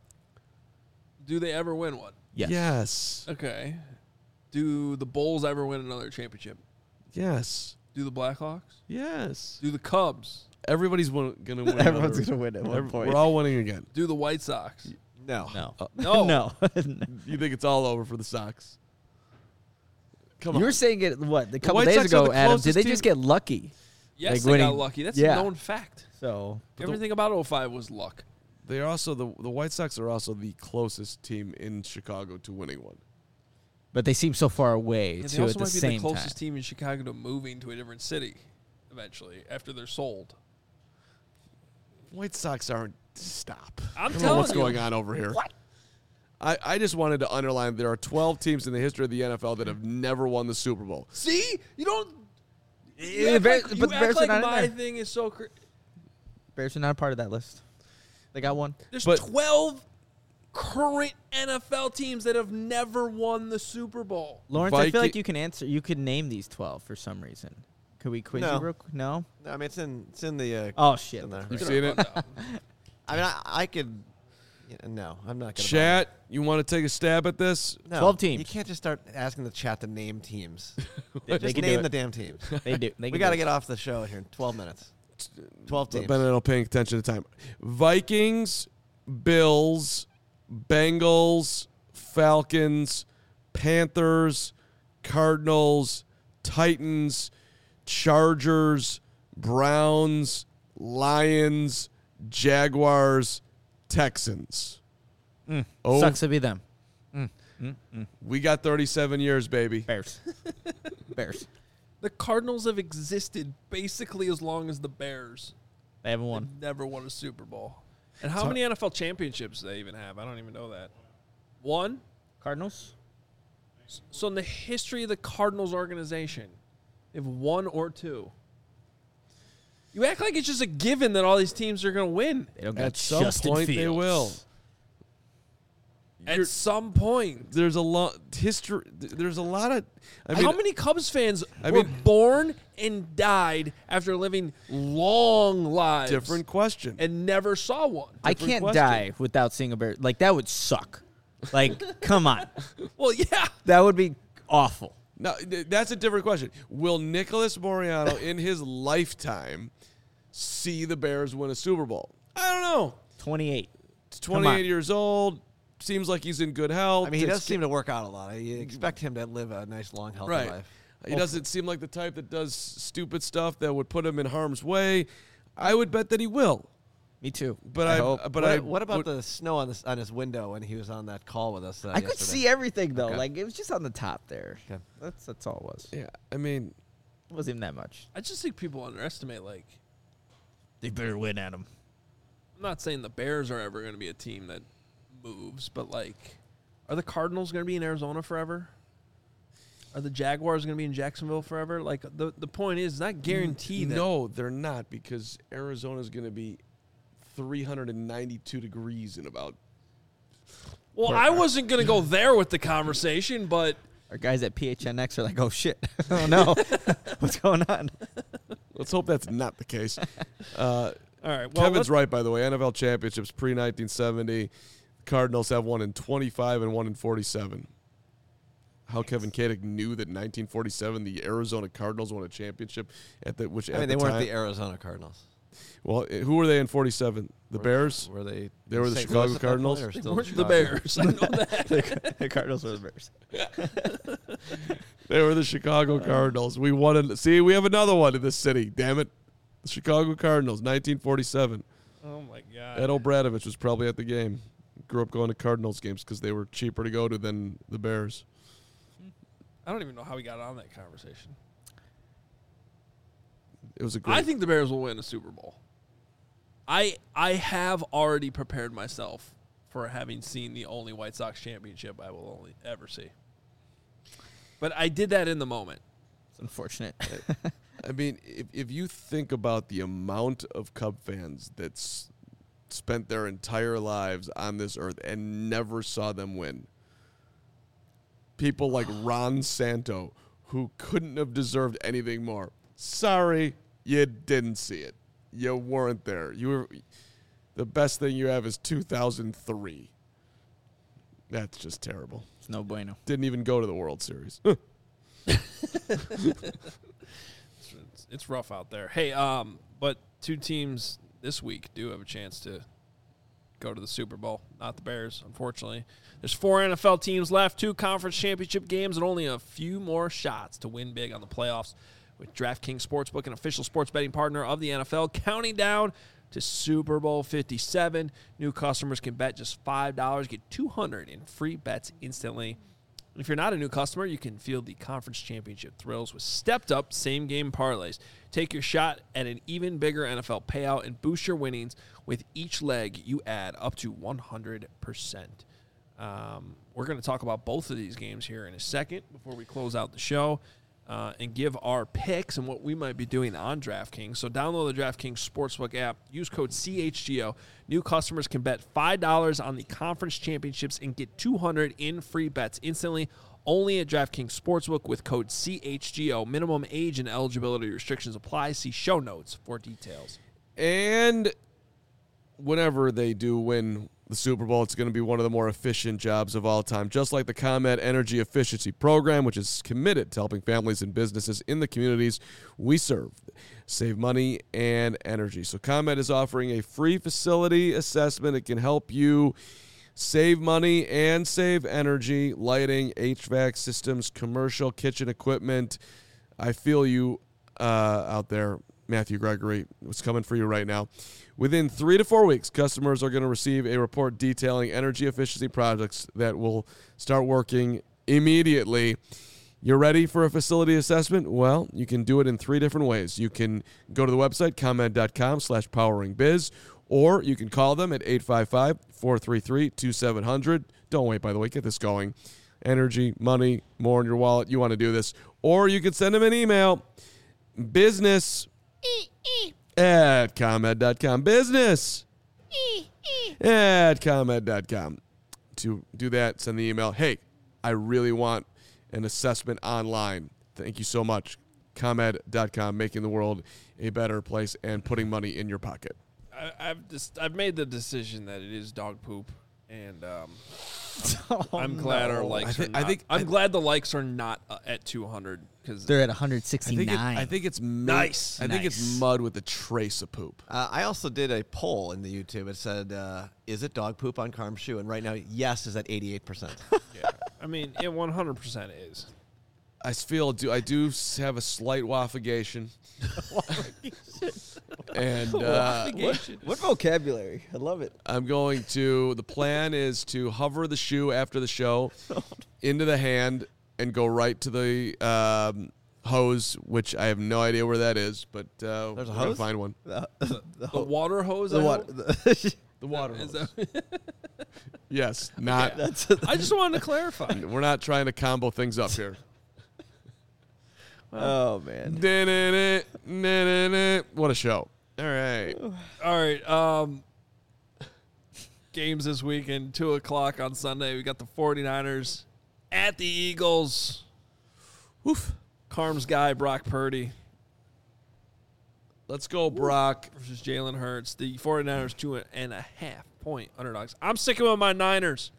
do they ever win one? Yes. Yes. Okay. Do the Bulls ever win another championship? Yes. Do the Blackhawks? Yes. Do the Cubs? Everybody's going to win. Everyone's another- going to win at one point. We're all winning again. Do the White Sox? No. No. No. No. You think it's all over for the Sox? Come You on. were saying it, what, a couple White days Sox are ago, the Adam. Did closest they team- just get lucky? Yes, Like they got winning- lucky. That's yeah. a known fact. So, Everything about 05 was luck. They are also the White Sox are also the closest team in Chicago to winning one. but they seem so far away, And they too, also at the might be the same closest time. team in Chicago to moving to a different city eventually after they're sold. White Sox aren't. Stop. I'm I don't know telling what's you. going on over here. What? I just wanted to underline there are 12 teams in the history of the NFL that have never won the Super Bowl. See? You don't... Yeah, the Bears- but the Bears are not in my there. thing is so... Bears are not a part of that list. They got one. There's But- 12 current NFL teams that have never won the Super Bowl. Lawrence, I feel like Viking- you can answer. You could name these 12 for some reason. Could we quiz No. you real quick? No? I mean, it's in the. Oh, shit. in there. You've Get seen our it? butt down. I mean, I could. No, I'm not gonna. Chat, you want to take a stab at this? No, 12 teams. You can't just start asking the chat to name teams. They Just can do name it. the damn teams. They do. They We can got to do get it. off the show here in 12 minutes. 12 teams. Ben and I paying attention to time. Vikings, Bills, Bengals, Falcons, Panthers, Cardinals, Titans, Chargers, Browns, Lions, Jaguars, Texans. Oh, Sucks to be them. we got 37 years, baby. Bears. Bears. The Cardinals have existed basically as long as the Bears. They haven't won. They've never won a Super Bowl. And how So- many NFL championships do they even have? I don't even know that. One? Cardinals? So in the history of the Cardinals organization, they have 1 or 2. You act like it's just a given that all these teams are going to win. They don't got At some Justin point, they Fields. will. At some point. There's a lot history. There's a lot of. I mean, How many Cubs fans I were mean- born and died after living long lives different question. and never saw one? I Different can't question. die without seeing a bear. Like, that would suck. Like, come on. Well, yeah. That would be awful. No, that's a different question. Will Nicholas Moriano in his lifetime see the Bears win a Super Bowl? I don't know. 28. He's Come on. 28 years old. Seems like he's in good health. I mean, he It's- does seem to work out a lot. You expect him to live a nice, long, healthy right. life. He doesn't seem like the type that does stupid stuff that would put him in harm's way. I would bet that he will. Me too. But I I, hope. but What about would- the snow on his window when he was on that call with us? I could yesterday? see everything, though. Okay. Like, it was just on the top there. Okay. That's all it was. Yeah, I mean, It wasn't even that much. I just think people underestimate, like, They better win at him. I'm not saying the Bears are ever going to be a team that moves, but, like, are the Cardinals going to be in Arizona forever? Are the Jaguars going to be in Jacksonville forever? Like, the point is, it's not guaranteed. No, they're not, because Arizona's going to be 392 degrees in about. Well, I wasn't going to go there with the conversation, but Our guys at PHNX are like, oh, shit. Oh, no. What's going on? Let's hope that's not the case. all right. Well, Kevin's right, by the way. NFL championships pre-1970. Cardinals have one in 25 and one in 47. How Kevin Kadick knew that in 1947 the Arizona Cardinals won a championship they weren't the Arizona Cardinals. Well, who were they in 47? The Bears? Were they? They were the St. Chicago Louis at that Cardinals? point, or they still weren't the Chicago? Bears. I know that. The Cardinals are the Bears. They were the Chicago Cardinals. We won. See, we have another one in this city. Damn it. The Chicago Cardinals, 1947. Oh, my God. Ed O'Bradovich was probably at the game. Grew up going to Cardinals games because they were cheaper to go to than the Bears. I don't even know how we got on that conversation. It was a great. I think the Bears will win a Super Bowl. I have already prepared myself for having seen the only White Sox championship I will only ever see. But I did that in the moment. It's unfortunate. I mean, if you think about the amount of Cub fans that's spent their entire lives on this earth and never saw them win. People like Ron Santo, who couldn't have deserved anything more. Sorry, you didn't see it. You weren't there. You were. The best thing you have is 2003. That's just terrible. It's no bueno. Didn't even go to the World Series. It's rough out there. Hey, but two teams this week do have a chance to go to the Super Bowl. Not the Bears, unfortunately. There's 4 NFL teams left, 2 conference championship games, and only a few more shots to win big on the playoffs. With DraftKings Sportsbook, an official sports betting partner of the NFL, counting down to Super Bowl 57. New customers can bet just $5, get $200 in free bets instantly. And if you're not a new customer, you can feel the conference championship thrills with stepped-up same-game parlays. Take your shot at an even bigger NFL payout and boost your winnings with each leg you add up to 100%. We're going to talk about both of these games here in a second before we close out the show. And give our picks and what we might be doing on DraftKings. So download the DraftKings Sportsbook app. Use code CHGO. New customers can bet $5 on the conference championships and get $200 in free bets instantly. Only at DraftKings Sportsbook with code CHGO. Minimum age and eligibility restrictions apply. See show notes for details. And whenever they do win the Super Bowl, it's going to be one of the more efficient jobs of all time, just like the ComEd Energy Efficiency Program, which is committed to helping families and businesses in the communities we serve save money and energy. So ComEd is offering a free facility assessment. It can help you save money and save energy, lighting, HVAC systems, commercial kitchen equipment. I feel you out there, Matthew Gregory. What's coming for you right now? Within 3 to 4 weeks, customers are going to receive a report detailing energy efficiency projects that will start working immediately. You're ready for a facility assessment? Well, you can do it in 3 different ways. You can go to the website, comed.com/poweringbiz, or you can call them at 855-433-2700. Don't wait, by the way. Get this going. Energy, money, more in your wallet. You want to do this. Or you can send them an email. Business at ComEd.com. Business at ComEd.com. To do that, send the email. Hey, I really want an assessment online. Thank you so much. ComEd.com, making the world a better place and putting money in your pocket. I've made the decision that it is dog poop, and I'm glad our likes are not. I'm glad the likes are not at 200 because They're at 169. I think it's Nice. I think it's mud with a trace of poop. I also did a poll in the YouTube. It said, is it dog poop on Carm's shoe? And right now, yes is at 88%. Yeah, I mean, it 100% is. I feel I do have a slight waffigation. And What vocabulary? I love it. the plan is to hover the shoe after the show into the hand and go right to the hose, which I have no idea where that is, but There's a we're gonna hose? find one. The water hose. The I what? hope? The water Is hose. that- Yes, not. I just wanted to clarify. We're not trying to combo things up here. Oh, man. What a show. All right. All right. Games this weekend, 2 o'clock on Sunday. We got the 49ers at the Eagles. Woof. Carm's guy, Brock Purdy, Let's go, Brock. versus Jalen Hurts. The 49ers 2.5-point underdogs. I'm sticking with my Niners.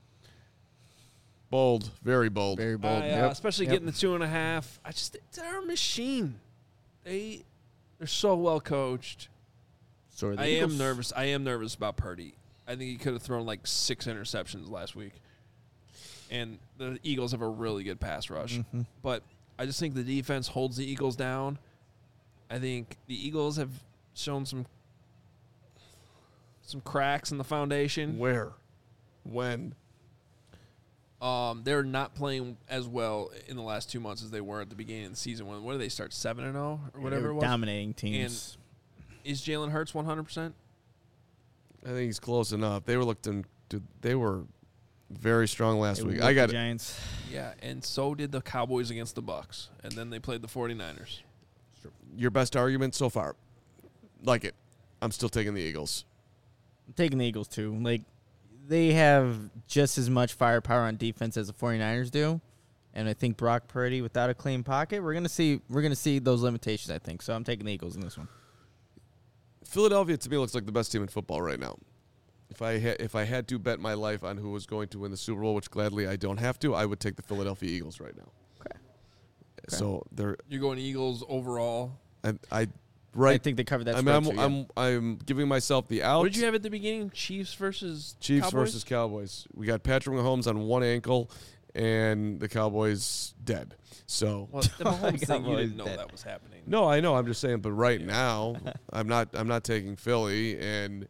Bold. Very bold. Very bold. Especially getting the 2.5. They're a machine. They're so well coached. So are the I Eagles. am nervous. I am nervous about Purdy. I think he could have thrown like 6 interceptions last week. And the Eagles have a really good pass rush. Mm-hmm. But I just think the defense holds the Eagles down. I think the Eagles have shown some cracks in the foundation. Where? When? They're not playing as well in the last 2 months as they were at the beginning of the season. When did they start? 7-0 or whatever it was. Dominating teams. Is Jalen Hurts 100%? I think he's close enough. They were very strong last week. They I got the it. Giants. Yeah, and so did the Cowboys against the Bucks, and then they played the 49ers. Your best argument so far. Like it. I'm still taking the Eagles. I'm taking the Eagles, too. Like, they have just as much firepower on defense as the 49ers do. And I think Brock Purdy, without a clean pocket, we're gonna see those limitations, I think. So I'm taking the Eagles in this one. Philadelphia, to me, looks like the best team in football right now. If I had to bet my life on who was going to win the Super Bowl, which gladly I don't have to, I would take the Philadelphia Eagles right now. Okay. So they're You're going Eagles overall. I think they covered that spread too, yeah. I'm giving myself the out. What did you have at the beginning? Chiefs versus Cowboys? versus Cowboys. We got Patrick Mahomes on one ankle, and the Cowboys dead. So Well, the Mahomes thing, you Cowboys didn't know dead. that was happening. no, I know. I'm just saying. But right now, I'm not taking Philly, and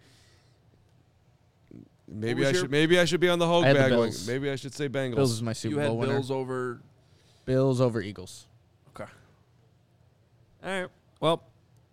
maybe I should be on the Hogue I had the bag. Bills. Maybe I should say Bengals. Bills is my You Super had Bowl winner. Bills over. Bills over Eagles. Okay. All right. Well,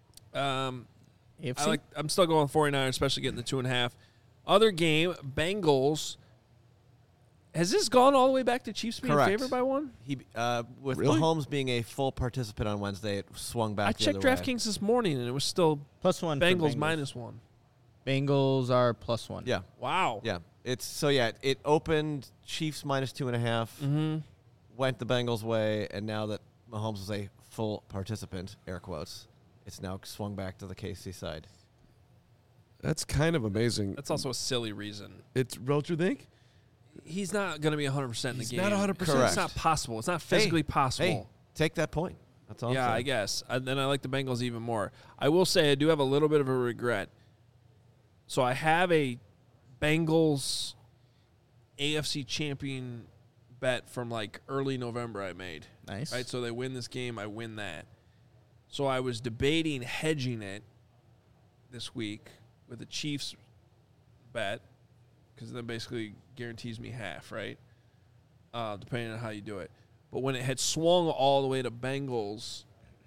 AFC? I'm still going 49ers, especially getting the 2.5. Other game, Bengals. Has this gone all the way back to Chiefs being Correct. favored by one? With Really? Mahomes being a full participant on Wednesday, it swung back. I the checked other way. DraftKings this morning, and it was still +1 for Bengals -1. Bengals are +1. Yeah, Wow. yeah. It opened Chiefs -2.5, Mm-hmm. went the Bengals' way, and now that Mahomes is a full participant, air quotes, it's now swung back to the KC side. That's kind of amazing. That's also a silly reason. Don't you think? He's not going to be 100% in the He's game. not 100%. It's Correct. not possible. It's not physically possible. Hey, take that point. That's all. Yeah, I'm I saying. guess. And then I like the Bengals even more. I will say I do have a little bit of a regret. So I have a Bengals AFC champion bet from like early November I made. Nice. Right? So they win this game, I win that. So I was debating hedging it this week with the Chiefs bet because that basically guarantees me half, right? Depending on how you do it. But when it had swung all the way to Bengals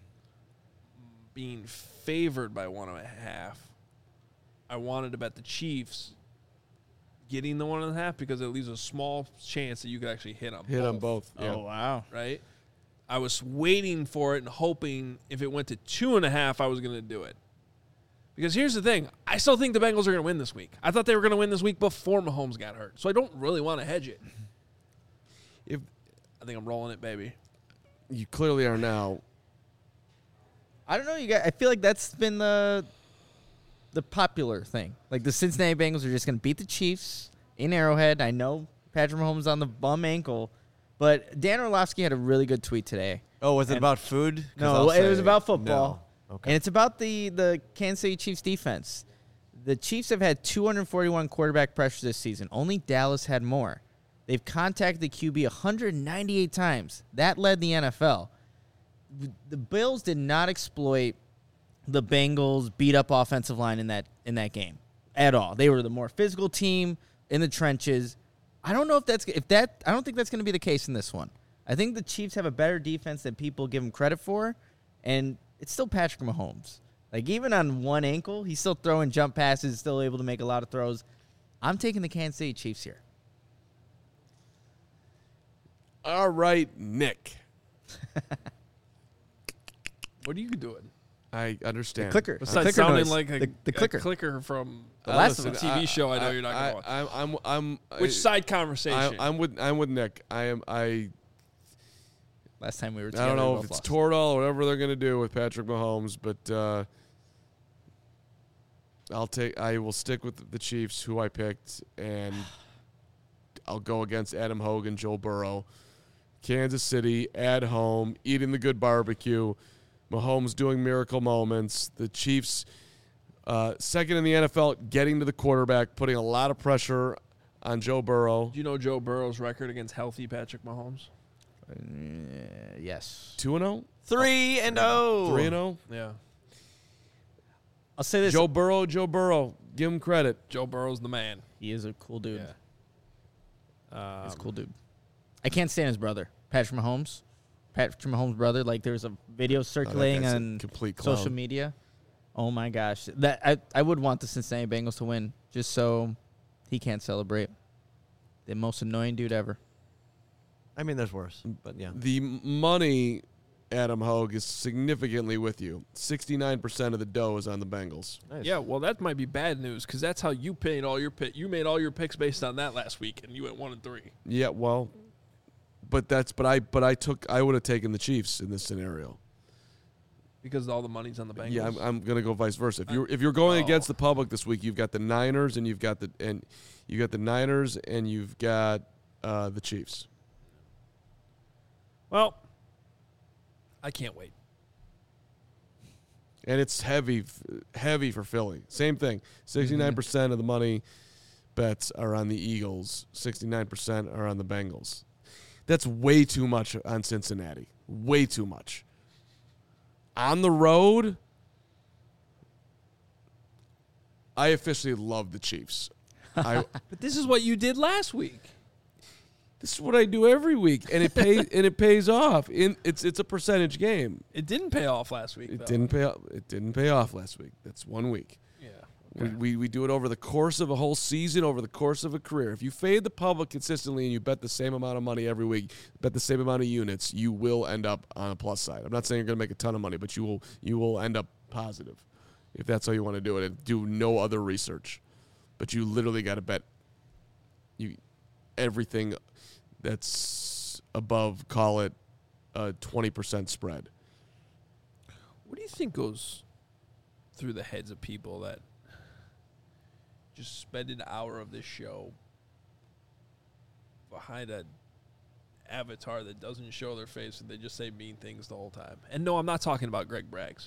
being favored by 1.5, I wanted to bet the Chiefs getting the 1.5 because it leaves a small chance that you could actually hit them. Hit on both. Oh, Yeah. wow. Right? I was waiting for it and hoping if it went to 2.5, I was going to do it. Because here's the thing. I still think the Bengals are going to win this week. I thought they were going to win this week before Mahomes got hurt. So I don't really want to hedge it. I think I'm rolling it, baby. You clearly are now. I don't know, you guys. I feel like that's been the popular thing. Like the Cincinnati Bengals are just going to beat the Chiefs in Arrowhead. I know Patrick Mahomes on the bum ankle, but Dan Orlovsky had a really good tweet today. Oh, was it about food? 'Cause No, I'll it was say about football. no. Okay. And it's about the Kansas City Chiefs defense. The Chiefs have had 241 quarterback pressures this season. Only Dallas had more. They've contacted the QB 198 times. That led the NFL. The Bills did not exploit the Bengals' beat-up offensive line in that game at all. They were the more physical team in the trenches. I don't know I don't think that's going to be the case in this one. I think the Chiefs have a better defense than people give them credit for, and it's still Patrick Mahomes. Like, even on one ankle, he's still throwing jump passes, still able to make a lot of throws. I'm taking the Kansas City Chiefs here. All right, Nick. What are you doing? I understand. Clicker. Besides clicker sounding noise. like the clicker. a clicker from The Last of a Us. TV show I know you're not going to watch. I'm Which side conversation? I'm with Nick. Last time we were I together, don't know we if both it's lost. Toradol or whatever they're going to do with Patrick Mahomes, but I will stick with the Chiefs, who I picked, and I'll go against Adam Hogan, Joe Burrow. Kansas City at home, eating the good barbecue. Mahomes doing miracle moments. The Chiefs, second in the NFL, getting to the quarterback, putting a lot of pressure on Joe Burrow. Do you know Joe Burrow's record against healthy Patrick Mahomes? Yes. 2-0? 3-0. 3-0? Yeah. I'll say this. Joe Burrow. Give him credit. Joe Burrow's the man. He is a cool dude. Yeah. He's a cool dude. I can't stand his brother, Patrick Mahomes. Patrick Mahomes' brother. Like, there's a video circulating guy's a on complete clown. social media. Oh my gosh, that I would want the Cincinnati Bengals to win just so he can't celebrate. The most annoying dude ever. I mean, there's worse, but yeah. The money, Adam Hogue, is significantly with you. 69% of the dough is on the Bengals. Nice. Yeah, well, that might be bad news because that's how you paid all your pick. You made all your picks based on that last week, and you went 1-3. Yeah, well, but I would have taken the Chiefs in this scenario. Because all the money's on the Bengals. Yeah, I'm gonna go vice versa. If you're going against the public this week, you've got the Niners and you've got the Chiefs. Well, I can't wait. And it's heavy for Philly. Same thing. 69% of the money bets are on the Eagles. 69% are on the Bengals. That's way too much on Cincinnati. Way too much. On the road, I officially love the Chiefs. But this is what you did last week. This is what I do every week, and it pays off. It's a percentage game. It didn't pay off last week, though. It didn't pay off last week. That's 1 week. Yeah. We do it over the course of a whole season, over the course of a career. If you fade the public consistently and you bet the same amount of money every week, bet the same amount of units, you will end up on a plus side. I'm not saying you're going to make a ton of money, but you will end up positive if that's how you want to do it. And do no other research, but you literally got to bet everything that's above, call it a 20% spread. What do you think goes through the heads of people that just spend an hour of this show behind an avatar that doesn't show their face and they just say mean things the whole time? And no, I'm not talking about Greg Braggs.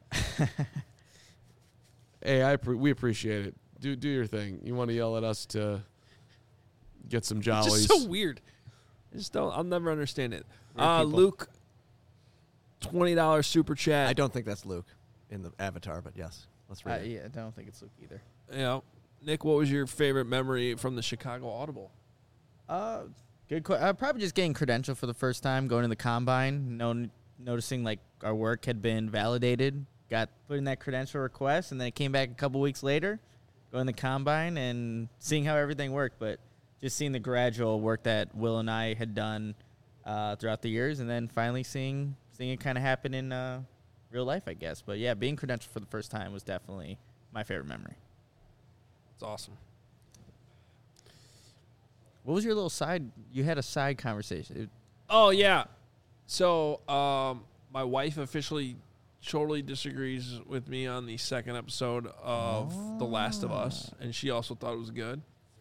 Hey, we appreciate it. Do your thing. You want to yell at us to get some jollies? It's just so weird. I'll never understand it. Weird people. Luke, $20 super chat. I don't think that's Luke in the avatar, but yes. Let's read it. Yeah, I don't think it's Luke either. You know, Nick, what was your favorite memory from the Chicago Audible? Good question. Probably just getting credential for the first time, going to the combine, noticing like our work had been validated, got put in that credential request, and then it came back a couple weeks later, going to the combine and seeing how everything worked. But just seeing the gradual work that Will and I had done throughout the years, and then finally seeing it kind of happen in real life, I guess. But yeah, being credentialed for the first time was definitely my favorite memory. It's awesome. What was your little side? You had a side conversation. Oh, yeah. So my wife officially totally disagrees with me on the second episode of The Last of Us, and she also thought it was good.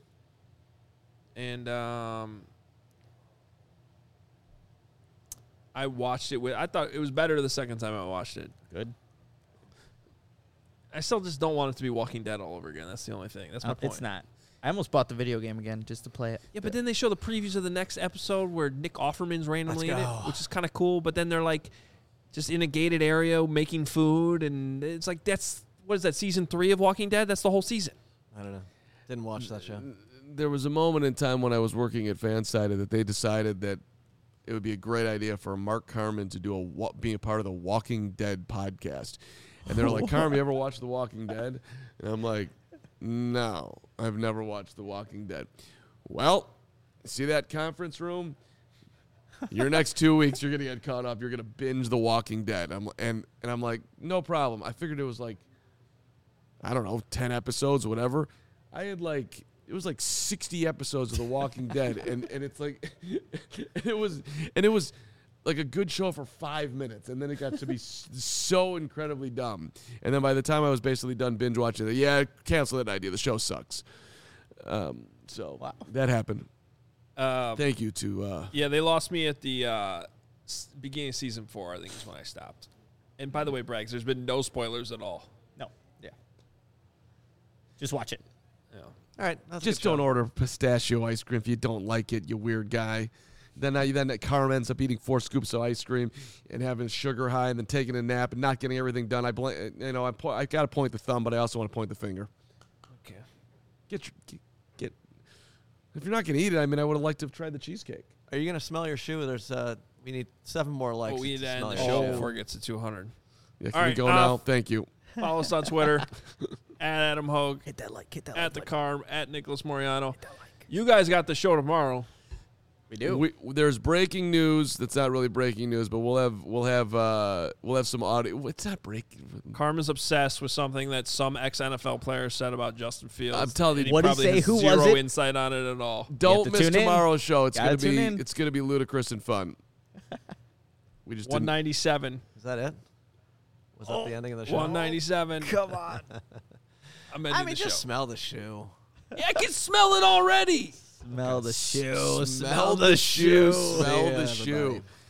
And I watched it I thought it was better the second time I watched it. Good. I still just don't want it to be Walking Dead all over again. That's the only thing. That's my point. It's not. I almost bought the video game again just to play it. Yeah, but then they show the previews of the next episode where Nick Offerman's randomly in it, which is kind of cool. But then they're like just in a gated area making food, and it's like what is that, season 3 of Walking Dead? That's the whole season. I don't know. Didn't watch that show. There was a moment in time when I was working at Fansided that they decided that it would be a great idea for Mark Carman to be a part of the Walking Dead podcast. And they were like, Carman, you ever watch The Walking Dead? And I'm like, no, I've never watched The Walking Dead. Well, see that conference room? Your next 2 weeks, you're gonna get caught up. You're gonna binge The Walking Dead. And I'm like, no problem. I figured it was like, I don't know, 10 episodes or whatever. I had like, it was like 60 episodes of The Walking Dead, and it's like, it was like a good show for 5 minutes, and then it got to be so incredibly dumb. And then by the time I was basically done binge watching it, cancel that idea. The show sucks. So Wow. that happened. Thank you to they lost me at the beginning of season 4, I think is when I stopped. And by the way, Braggs, there's been no spoilers at all. No. Yeah. Just watch it. Yeah. All right. That's a just good don't show. order pistachio ice cream if you don't like it, you weird guy. Then Carm ends up eating 4 scoops of ice cream and having sugar high, and then taking a nap and not getting everything done. I got to point the thumb, but I also want to point the finger. Okay. Get. If you're not going to eat it, I mean, I would have liked to have tried the cheesecake. Are you gonna smell your shoe? There's we need 7 more likes. Well, we need to end smell the your show shoe. before it gets to 200. Yeah, can All we right, go now? Thank you. Follow us on Twitter at Adam Hogue, Hit that like. at the Carm, at Nicholas Moriano. You guys got the show tomorrow. We do. There's breaking news. That's not really breaking news, but we'll have some audio. It's not breaking. Carm is obsessed with something that some ex-NFL player said about Justin Fields. I'm telling you- and he What'd he probably say? has Who was zero it? insight on it at all. Don't to miss tune in. tomorrow's show. It's Gotta gonna tune be in. ludicrous and fun. We just didn't. 197. Is that it? Was that the ending of the show? 197. Come on. I'm ending I mean, the just show. smell the shoe. Yeah, I can smell it already. Smell the shoe. Smell the shoe. Smell the Yeah, shoe. everybody.